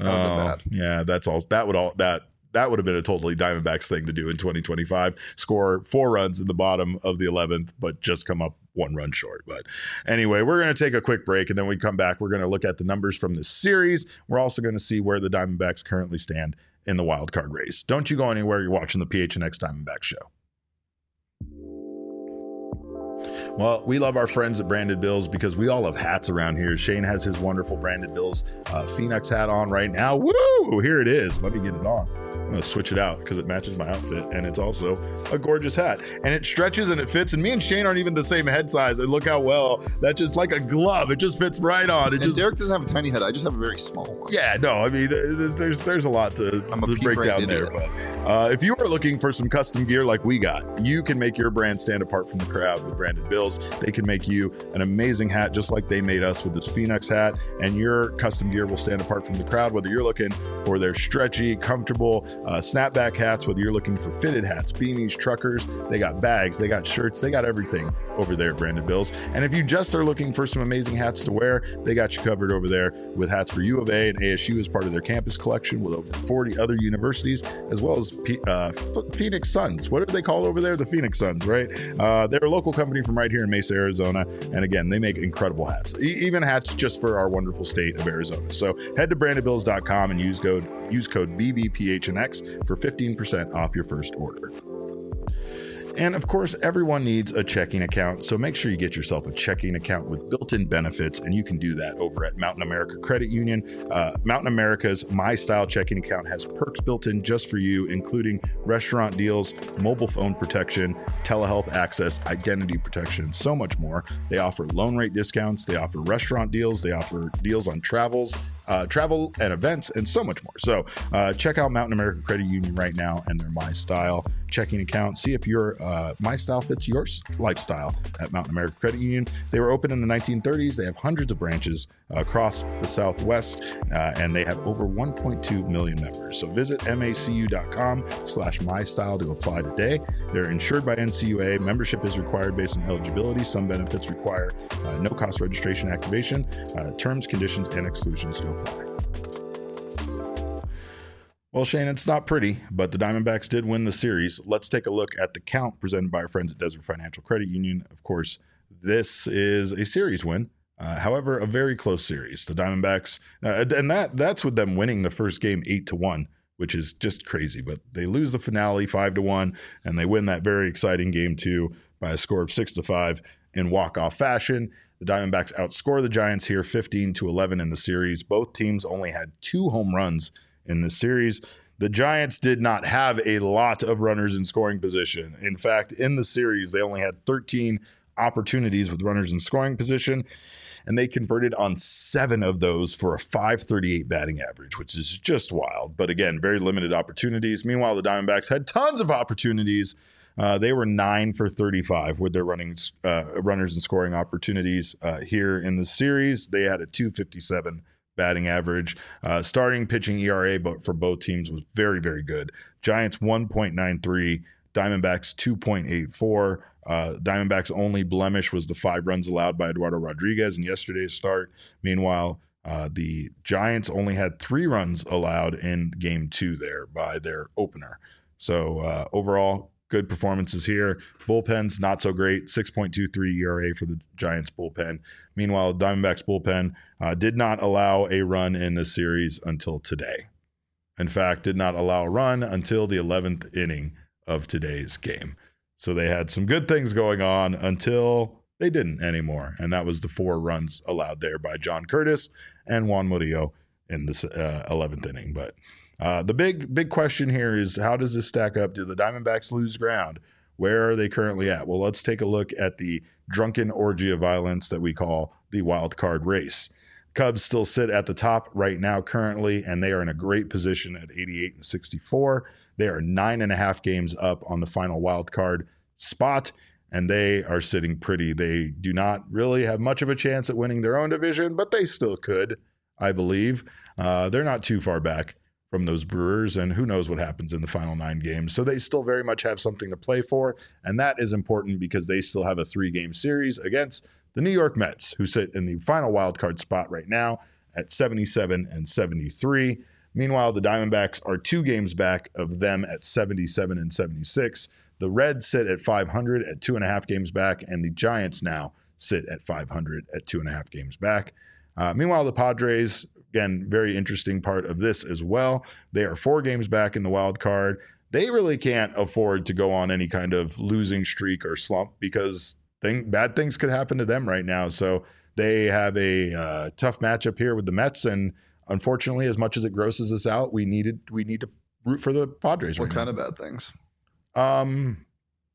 That would have Oh, been bad. yeah, that's all. That would all that that would have been a totally Diamondbacks thing to do in twenty twenty-five. Score four runs in the bottom of the eleventh, but just come up one run short. But anyway, we're going to take a quick break, and then we come back. We're going to look at the numbers from this series. We're also going to see where the Diamondbacks currently stand in the wild card race. Don't you go anywhere. You're watching the P H N X Diamondbacks show. Well, we love our friends at Branded Bills because we all have hats around here. Shane has his wonderful Branded Bills uh, Phoenix hat on right now. Woo! Here it is. Let me get it on. I'm going to switch it out because it matches my outfit, and it's also a gorgeous hat. And it stretches and it fits, and me and Shane aren't even the same head size. And look how well, that just like a glove. It just fits right on. It And just Derek doesn't have a tiny head. I just have a very small one. Yeah, no, I mean, there's there's a lot to, I'm a to break down P-brand there. idiot. But uh, if you are looking for some custom gear like we got, you can make your brand stand apart from the crowd with Branded Bills. They can make you an amazing hat just like they made us with this Phoenix hat, and your custom gear will stand apart from the crowd, whether you're looking for their stretchy, comfortable uh, snapback hats, whether you're looking for fitted hats, beanies, truckers. They got bags, they got shirts, they got everything over there at Branded Bills. And if you just are looking for some amazing hats to wear, they got you covered over there with hats for U of A and A S U as part of their campus collection with over forty other universities, as well as P- uh, Phoenix Suns. What do they call over there? The Phoenix Suns, right? Uh, they're a local company from right here in Mesa, Arizona. And again, they make incredible hats, e- even hats just for our wonderful state of Arizona. So head to branded bills dot com and use code, use code B B P H N X for fifteen percent off your first order. And of course, everyone needs a checking account, so make sure you get yourself a checking account with built-in benefits, and you can do that over at Mountain America Credit Union. Uh, Mountain America's My Style checking account has perks built in just for you, including restaurant deals, mobile phone protection, telehealth access, identity protection, and so much more. They offer loan rate discounts, they offer restaurant deals, they offer deals on travels, Uh, travel and events, and so much more. So uh, check out Mountain America Credit Union right now and their My Style checking account. See if your uh, My Style fits your lifestyle at Mountain America Credit Union. They were opened in the nineteen thirties. They have hundreds of branches uh, across the Southwest, uh, and they have over one point two million members. So visit macu dot com slash my style to apply today. They're insured by N C U A. Membership is required based on eligibility. Some benefits require uh, no cost registration activation. Uh, terms, conditions, and exclusions to apply. Well, Shane, it's not pretty, but the Diamondbacks did win the series. Let's take a look at the count presented by our friends at Desert Financial Credit Union. Of course, this is a series win. Uh, however, a very close series. The Diamondbacks, uh, and that that's with them winning the first game eight to one, which is just crazy. But they lose the finale five to one, and they win that very exciting game two by a score of six to five in walk-off fashion. The Diamondbacks outscore the Giants here fifteen to eleven in the series. Both teams only had two home runs in this series. The Giants did not have a lot of runners in scoring position. In fact, in the series, they only had thirteen opportunities with runners in scoring position, and they converted on seven of those for a five thirty-eight batting average, which is just wild. But again, very limited opportunities. Meanwhile, the Diamondbacks had tons of opportunities. Uh, they were nine for thirty-five with their running uh, runners and scoring opportunities uh, here in the series. They had a two fifty-seven batting average. Uh, starting pitching E R A but for both teams was very, very good. Giants one point nine three, Diamondbacks two point eight four. Uh, Diamondbacks' only blemish was the five runs allowed by Eduardo Rodriguez in yesterday's start. Meanwhile, uh, the Giants only had three runs allowed in game two there by their opener. So uh, overall, good performances here. Bullpen's not so great, six point two three E R A for the Giants bullpen. Meanwhile, Diamondbacks bullpen uh, did not allow a run in this series until today. In fact, did not allow a run until the eleventh inning of today's game. So they had some good things going on until they didn't anymore. And that was the four runs allowed there by John Curtis and Juan Murillo in this uh, eleventh inning. But uh, the big, big question here is, how does this stack up? Do the Diamondbacks lose ground? Where are they currently at? Well, let's take a look at the drunken orgy of violence that we call the wild card race. Cubs still sit at the top right now currently, and they are in a great position at eighty-eight and sixty-four. They are nine and a half games up on the final wild card spot, and they are sitting pretty. They do not really have much of a chance at winning their own division, but they still could, I believe. Uh, they're not too far back from those Brewers, and who knows what happens in the final nine games. So they still very much have something to play for, and that is important because they still have a three-game series against the New York Mets, who sit in the final wild card spot right now at seventy-seven and seventy-three. Meanwhile, the Diamondbacks are two games back of them at seventy-seven and seventy-six. The Reds sit at five hundred at two and a half games back, and the Giants now sit at five hundred at two and a half games back. Uh, meanwhile, the Padres, again, very interesting part of this as well. They are four games back in the wild card. They really can't afford to go on any kind of losing streak or slump because thing, bad things could happen to them right now. So they have a uh, tough matchup here with the Mets, and unfortunately, as much as it grosses us out, we needed we need to root for the Padres. What right kind now. of bad things? Um,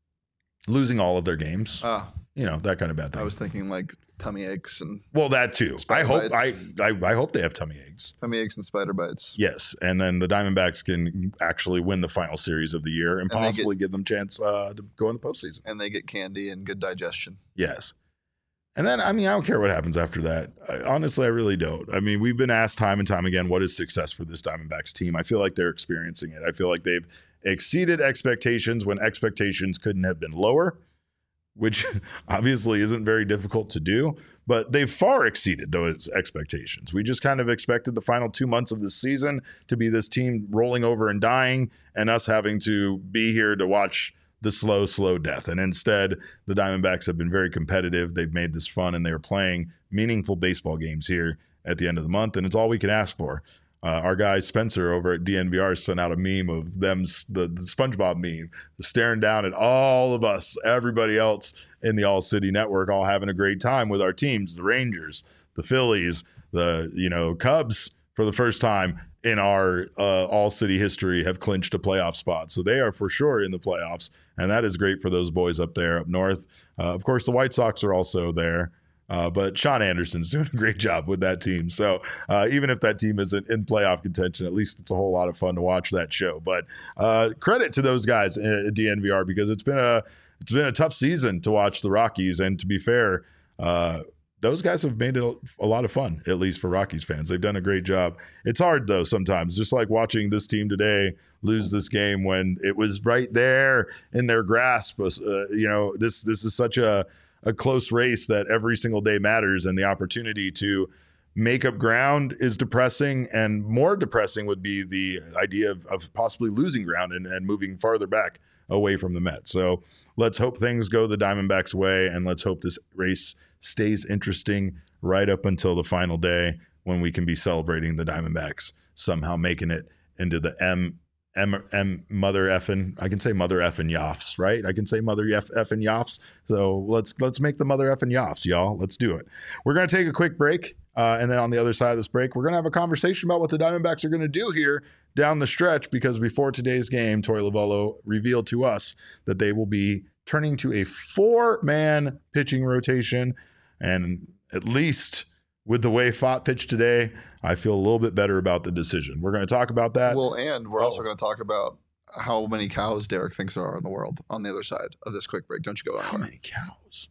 losing all of their games. Ah, you know, that kind of bad thing. I was thinking like tummy aches and well, that too. I spider hope I, bites. I I hope they have tummy aches. tummy aches and spider bites. Yes, and then the Diamondbacks can actually win the final series of the year and, And they possibly give them a chance uh, to go in the postseason. And they get candy and good digestion. Yes. And then, I mean, I don't care what happens after that. I, honestly, I really don't. I mean, we've been asked time and time again, what is success for this Diamondbacks team? I feel like they're experiencing it. I feel like they've exceeded expectations when expectations couldn't have been lower, which obviously isn't very difficult to do, but they've far exceeded those expectations. We just kind of expected the final two months of the season to be this team rolling over and dying and us having to be here to watch the slow, slow death. And instead, the Diamondbacks have been very competitive. They've made this fun, and they're playing meaningful baseball games here at the end of the month, and it's all we can ask for. Uh, our guy Spencer over at D N V R sent out a meme of them, the, the SpongeBob meme, staring down at all of us, everybody else in the All City Network, all having a great time with our teams, the Rangers, the Phillies, the you know Cubs, for the first time in our uh, All City history, have clinched a playoff spot. So they are for sure in the playoffs, and that is great for those boys up there up north. Uh, of course, the White Sox are also there. Uh, but Sean Anderson's doing a great job with that team. So uh, even if that team isn't in playoff contention, at least it's a whole lot of fun to watch that show. But uh, credit to those guys at D N V R, because it's been a it's been a tough season to watch the Rockies. And to be fair, uh, those guys have made it a, a lot of fun, at least for Rockies fans. They've done a great job. It's hard, though, sometimes, just like watching this team today lose this game when it was right there in their grasp. Uh, you know, this this is such a a close race that every single day matters, and the opportunity to make up ground is depressing, and more depressing would be the idea of, of possibly losing ground and, and moving farther back away from the Mets. So let's hope things go the Diamondbacks' way, and let's hope this race stays interesting right up until the final day when we can be celebrating the Diamondbacks somehow making it into the M M, M mother effing, I can say mother effing Yoffs, right? I can say mother F, effing Yoffs. So let's let's make the mother effing Yoffs, y'all. Let's do it. We're going to take a quick break. Uh, and then on the other side of this break, we're going to have a conversation about what the Diamondbacks are going to do here down the stretch, because before today's game, Torey Lovullo revealed to us that they will be turning to a four-man pitching rotation. And at least with the way Fott pitched today, I feel a little bit better about the decision. We're going to talk about that. Well, and we're Oh. also going to talk about how many cows Derek thinks there are in the world on the other side of this quick break. Don't you go How anywhere. many cows?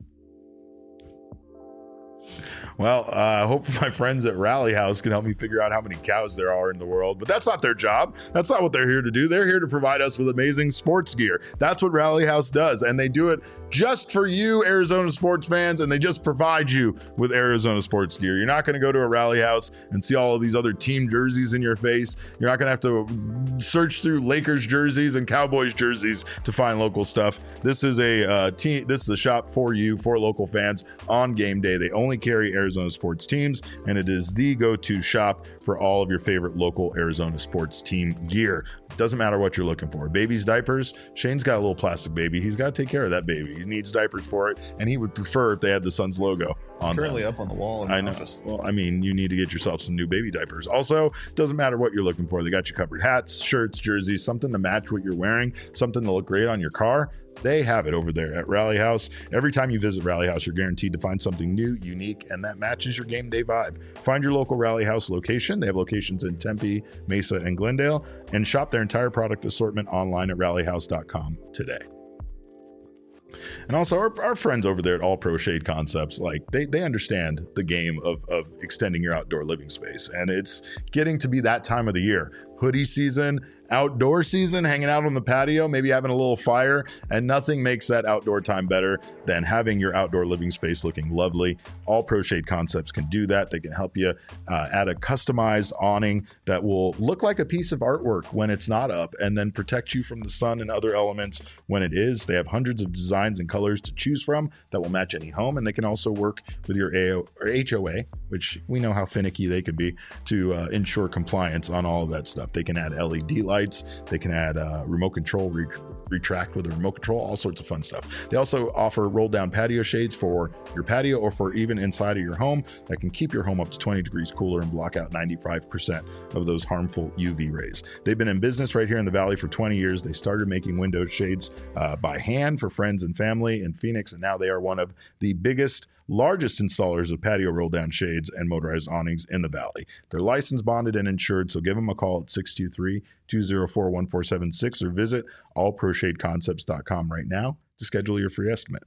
Well, I uh, hope my friends at Rally House can help me figure out how many cows there are in the world, but that's not their job. That's not what they're here to do. They're here to provide us with amazing sports gear. That's what Rally House does, and they do it just for you, Arizona sports fans, and they just provide you with Arizona sports gear. You're not going to go to a Rally House and see all of these other team jerseys in your face. You're not going to have to search through Lakers jerseys and Cowboys jerseys to find local stuff. This is a uh, team. This is a shop for you, for local fans on game day. They only carry Arizona sports teams, and it is the go-to shop for all of your favorite local Arizona sports team gear. Doesn't matter what you're looking for. Baby's diapers. Shane's got a little plastic baby. He's got to take care of that baby. He needs diapers for it, and he would prefer if they had the Suns logo on It's currently them. up on the wall in I the know. office. Well, I mean, you need to get yourself some new baby diapers. Also, doesn't matter what you're looking for. They got you covered. Hats, shirts, jerseys, something to match what you're wearing, something to look great on your car. They have it over there at Rally House. Every time you visit Rally House, you're guaranteed to find something new, unique, and that matches your game day vibe. Find your local Rally House location. They have locations in Tempe, Mesa, and Glendale, and shop their entire product assortment online at rally house dot com today. And also our, our friends over there at All Pro Shade Concepts, like they they understand the game of, of extending your outdoor living space. And it's getting to be that time of the year. Hoodie season outdoor season, hanging out on the patio, maybe having a little fire, and nothing makes that outdoor time better than having your outdoor living space looking lovely. All Pro Shade Concepts can do that. They can help you uh, add a customized awning that will look like a piece of artwork when it's not up, and then protect you from the sun and other elements when it is. They have hundreds of designs and colors to choose from that will match any home, and they can also work with your A O or H O A, which we know how finicky they can be, to uh, ensure compliance on all of that stuff. They can add L E D lights, they can add uh, remote control, re- retract with a remote control, all sorts of fun stuff. They also offer roll down patio shades for your patio or for even inside of your home that can keep your home up to twenty degrees cooler and block out ninety-five percent of those harmful U V rays. They've been in business right here in the Valley for twenty years. They started making window shades uh, by hand for friends and family in Phoenix, and now they are one of the biggest, largest installers of patio roll down shades and motorized awnings in the Valley. They're licensed, bonded, and insured, so give them a call at six two three, two oh four, one four seven six or visit all pro shade concepts dot com right now to schedule your free estimate.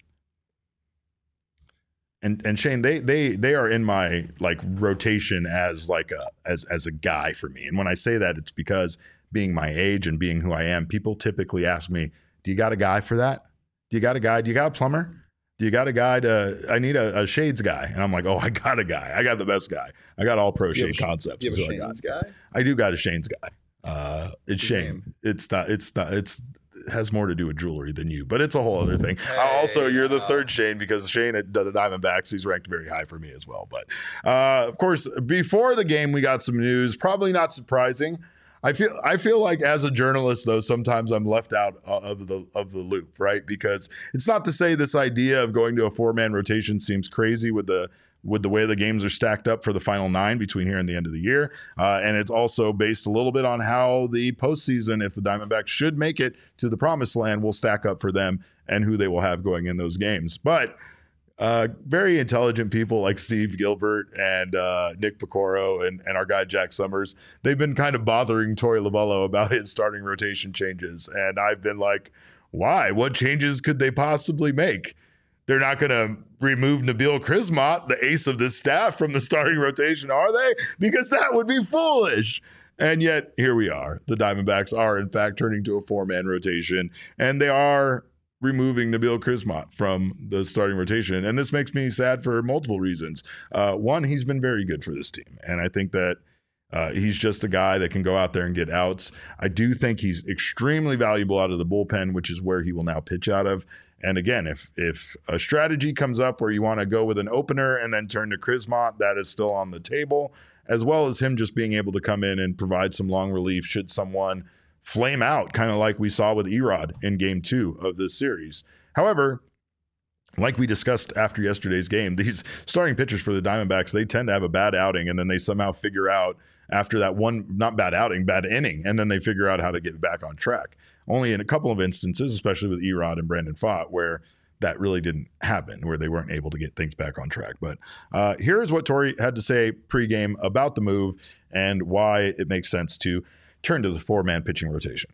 And and Shane, they they they are in my like rotation as like a as as a guy for me. And when I say that, it's because being my age and being who I am, people typically ask me, "Do you got a guy for that? Do you got a guy? Do you got a plumber? Do you got a guy to, I need a, a shades guy." And I'm like, "Oh, I got a guy. I got the best guy. I got all Pro Shade Concepts." You have a I Shane's got. guy? I do got a Shane's guy. Uh, it's Shane. It's not, it's not, it's, it has more to do with jewelry than you, but it's a whole other thing. Hey, also, you're the uh, third Shane because Shane at the Diamondbacks, he's ranked very high for me as well. But uh, of course, before the game, we got some news, probably not surprising. I feel I feel like as a journalist, though, sometimes I'm left out of the of the loop, right? Because it's not to say this idea of going to a four-man rotation seems crazy with the with the way the games are stacked up for the final nine between here and the end of the year. Uh, and it's also based a little bit on how the postseason, if the Diamondbacks should make it to the promised land, will stack up for them and who they will have going in those games. But Uh, very intelligent people like Steve Gilbert and uh, Nick Picoro and, and our guy Jack Summers, they've been kind of bothering Torey Lovullo about his starting rotation changes. And I've been like, why? What changes could they possibly make? They're not going to remove Nabil Crismont, the ace of this staff, from the starting rotation, are they? Because that would be foolish. And yet, here we are. The Diamondbacks are, in fact, turning to a four-man rotation, and they are removing Nabil Crismont from the starting rotation. And this makes me sad for multiple reasons. Uh, one, he's been very good for this team. And I think that uh, he's just a guy that can go out there and get outs. I do think he's extremely valuable out of the bullpen, which is where he will now pitch out of. And again, if if a strategy comes up where you want to go with an opener and then turn to Crismont, that is still on the table, as well as him just being able to come in and provide some long relief should someone flame out, kind of like we saw with Erod in game two of this series. However, like we discussed after yesterday's game, these starting pitchers for the Diamondbacks, they tend to have a bad outing, and then they somehow figure out after that one, not bad outing, bad inning, and then they figure out how to get back on track. Only in a couple of instances, especially with Erod and Brandon Pfaadt, where that really didn't happen, where they weren't able to get things back on track. But uh, here's what Torey had to say pregame about the move and why it makes sense to turn to the four-man pitching rotation.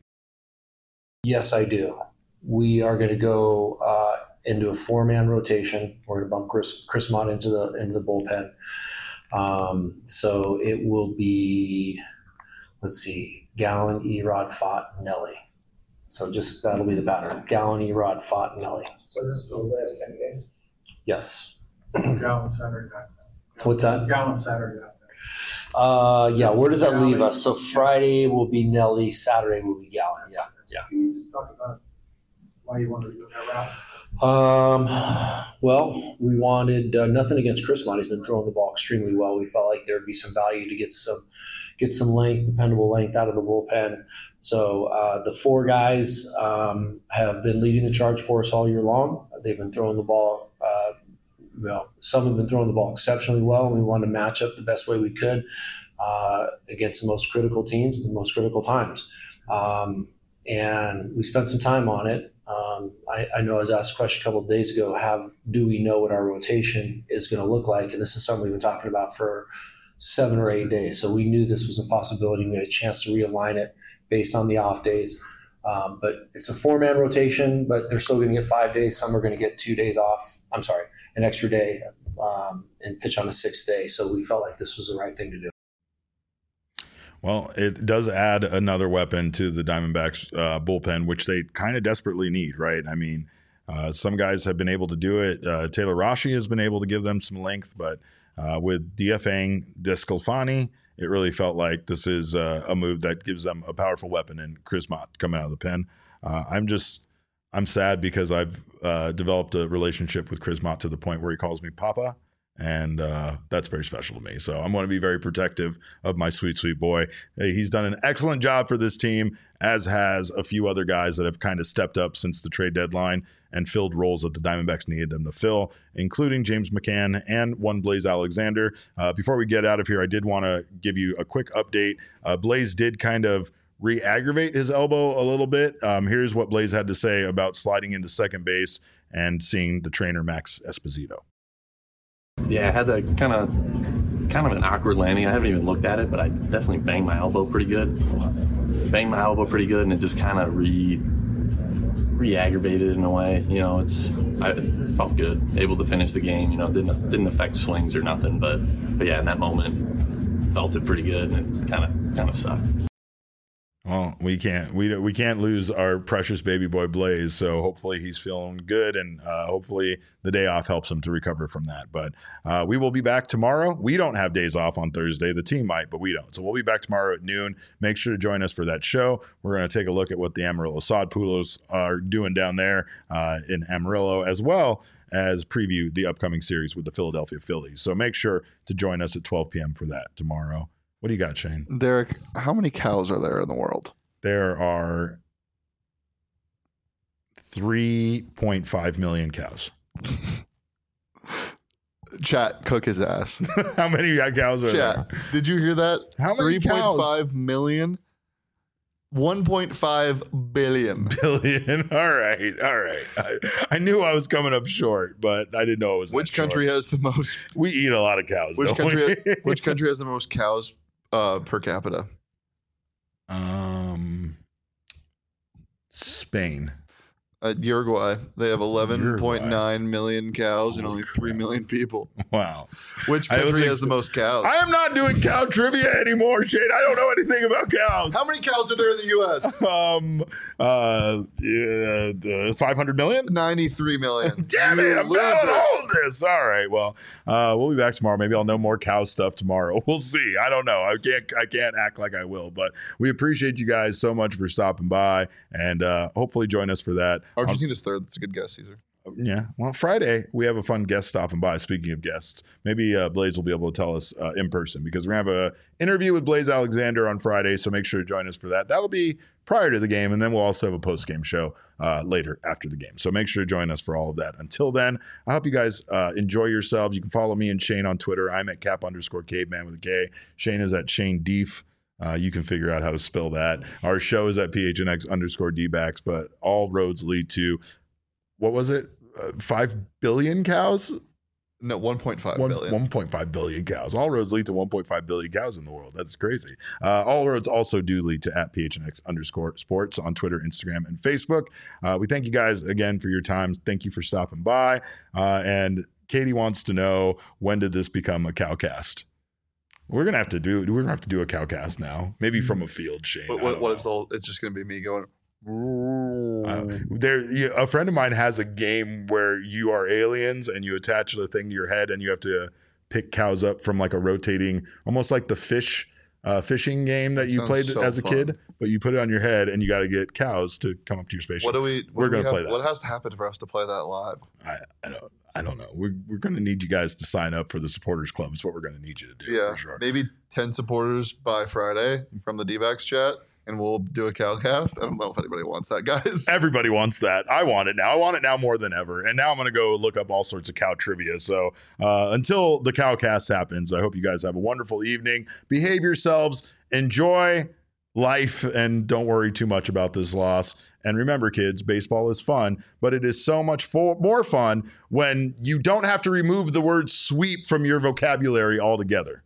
Yes, I do. We are going to go uh, into a four-man rotation. We're going to bump Chris Crismont into the into the bullpen. Um, so it will be, let's see, Gallen, Erod, Pfaadt, Nelly. So just that'll be the pattern: Gallen, Erod, Pfaadt, Nelly. So this is the last ten games. Yes. Gallen Saturday night. What's that? Gallen Saturday night. Uh, yeah. Where does that leave us? So Friday will be Nelly. Saturday will be Gallen. Yeah. Yeah. Can you just talk about why you wanted to go that route? Um, well, we wanted uh, nothing against Crismont. He's been throwing the ball extremely well. We felt like there'd be some value to get some get some length, dependable length out of the bullpen. So uh, the four guys um, have been leading the charge for us all year long. They've been throwing the ball. Uh, well, some have been throwing the ball exceptionally well, and we wanted to match up the best way we could uh, against the most critical teams, the most critical times. Um, and we spent some time on it. Um, I, I know I was asked a question a couple of days ago, have, do we know what our rotation is going to look like? And this is something we've been talking about for seven or eight days. So we knew this was a possibility. We had a chance to realign it based on the off days. Um, but it's a four-man rotation, but they're still going to get five days. Some are going to get two days off. I'm sorry, an extra day um, and pitch on the sixth day. So we felt like this was the right thing to do. Well, it does add another weapon to the Diamondbacks uh, bullpen, which they kind of desperately need, right? I mean, uh, some guys have been able to do it. Uh, Taylor Rashi has been able to give them some length, but uh, with DFAing DeSclafani, it really felt like this is uh, a move that gives them a powerful weapon in Chris Mott coming out of the pen. Uh, I'm just, I'm sad because I've uh, developed a relationship with Chris Mott to the point where he calls me Papa. And uh, that's very special to me. So I'm going to be very protective of my sweet, sweet boy. Hey, he's done an excellent job for this team, as has a few other guys that have kind of stepped up since the trade deadline and filled roles that the Diamondbacks needed them to fill, including James McCann and one Blaze Alexander. Uh, before we get out of here, I did want to give you a quick update. Uh, Blaze did kind of re-aggravate his elbow a little bit. Um, here's what Blaze had to say about sliding into second base and seeing the trainer Max Esposito. Yeah, I had that kind of kind of an awkward landing. I haven't even looked at it, but I definitely banged my elbow pretty good. Banged my elbow pretty good, and it just kind of re re-aggravated in a way. You know, it's I felt good, able to finish the game. You know, didn't didn't affect swings or nothing, but but yeah, in that moment, felt it pretty good, and it kind of kind of sucked. Well, we can't we we can't lose our precious baby boy Blaze. So hopefully he's feeling good, and uh, hopefully the day off helps him to recover from that. But uh, we will be back tomorrow. We don't have days off on Thursday. The team might, but we don't. So we'll be back tomorrow at noon. Make sure to join us for that show. We're going to take a look at what the Amarillo Sod Poodles are doing down there uh, in Amarillo, as well as preview the upcoming series with the Philadelphia Phillies. So make sure to join us at twelve p.m. for that tomorrow. What do you got, Shane? Derek, how many cows are there in the world? There are three point five million cows. Chat, cook his ass. How many cows are Chat, there? Did you hear that? How many three point five million? one point five billion. Billion. All right. All right. I, I knew I was coming up short, but I didn't know it was Which that country short. has the most? We eat a lot of cows. Which don't country? we? Which country has the most cows uh, per capita? Um, Spain. Uh, Uruguay. They have eleven point nine million cows and only three million people. Wow. Which I was country ex- has the most cows? I am not doing cow trivia anymore, Shane. I don't know anything about cows. How many cows are there in the U S? Um, uh, yeah, uh, five hundred million? ninety-three million. Damn You it, I'm loser. down all this. All right, well, uh, we'll be back tomorrow. Maybe I'll know more cow stuff tomorrow. We'll see. I don't know. I can't I can't act like I will, but we appreciate you guys so much for stopping by, and uh, hopefully join us for that. Argentina's third. That's a good guess, Caesar. Yeah. Well, Friday, we have a fun guest stopping by. Speaking of guests, maybe uh, Blaze will be able to tell us uh, in person, because we're going to have an interview with Blaze Alexander on Friday. So make sure to join us for that. That'll be prior to the game. And then we'll also have a post game show uh, later after the game. So make sure to join us for all of that. Until then, I hope you guys uh, enjoy yourselves. You can follow me and Shane on Twitter. I'm at cap underscore caveman with a K. Shane is at Shane Deef. Uh, you can figure out how to spell that. Our show is at P H N X underscore D-backs, but all roads lead to, what was it? Uh, five billion cows? No, one point five One, billion. one point five billion cows. All roads lead to one point five billion cows in the world. That's crazy. Uh, all roads also do lead to at P H N X underscore sports on Twitter, Instagram, and Facebook. Uh, we thank you guys again for your time. Thank you for stopping by. Uh, and Katie wants to know, when did this become a cowcast? We're gonna have to do. We're gonna have to do a cowcast now. Maybe from a field, Shane. What, I what, don't what know. is the whole, it's just going to be me going, Uh, there, you, a friend of mine has a game where you are aliens and you attach the thing to your head, and you have to pick cows up from like a rotating, almost like the fish uh, fishing game that, That you sounds played so as a fun. kid. But you put it on your head, and you got to get cows to come up to your spaceship. what do we, what We're do we gonna play have- that. What has to happen for us to play that live? I, I don't. I don't know. We're we're going to need you guys to sign up for the supporters club. Is what we're going to need you to do. Yeah, for sure. maybe ten supporters by Friday from the D-backs chat, and we'll do a cowcast. I don't know if anybody wants that, guys. Everybody wants that. I want it now. I want it now more than ever. And now I'm going to go look up all sorts of cow trivia. So uh, until the cowcast happens, I hope you guys have a wonderful evening. Behave yourselves. Enjoy life, and don't worry too much about this loss. And remember, kids, baseball is fun, but it is so much fo- more fun when you don't have to remove the word sweep from your vocabulary altogether.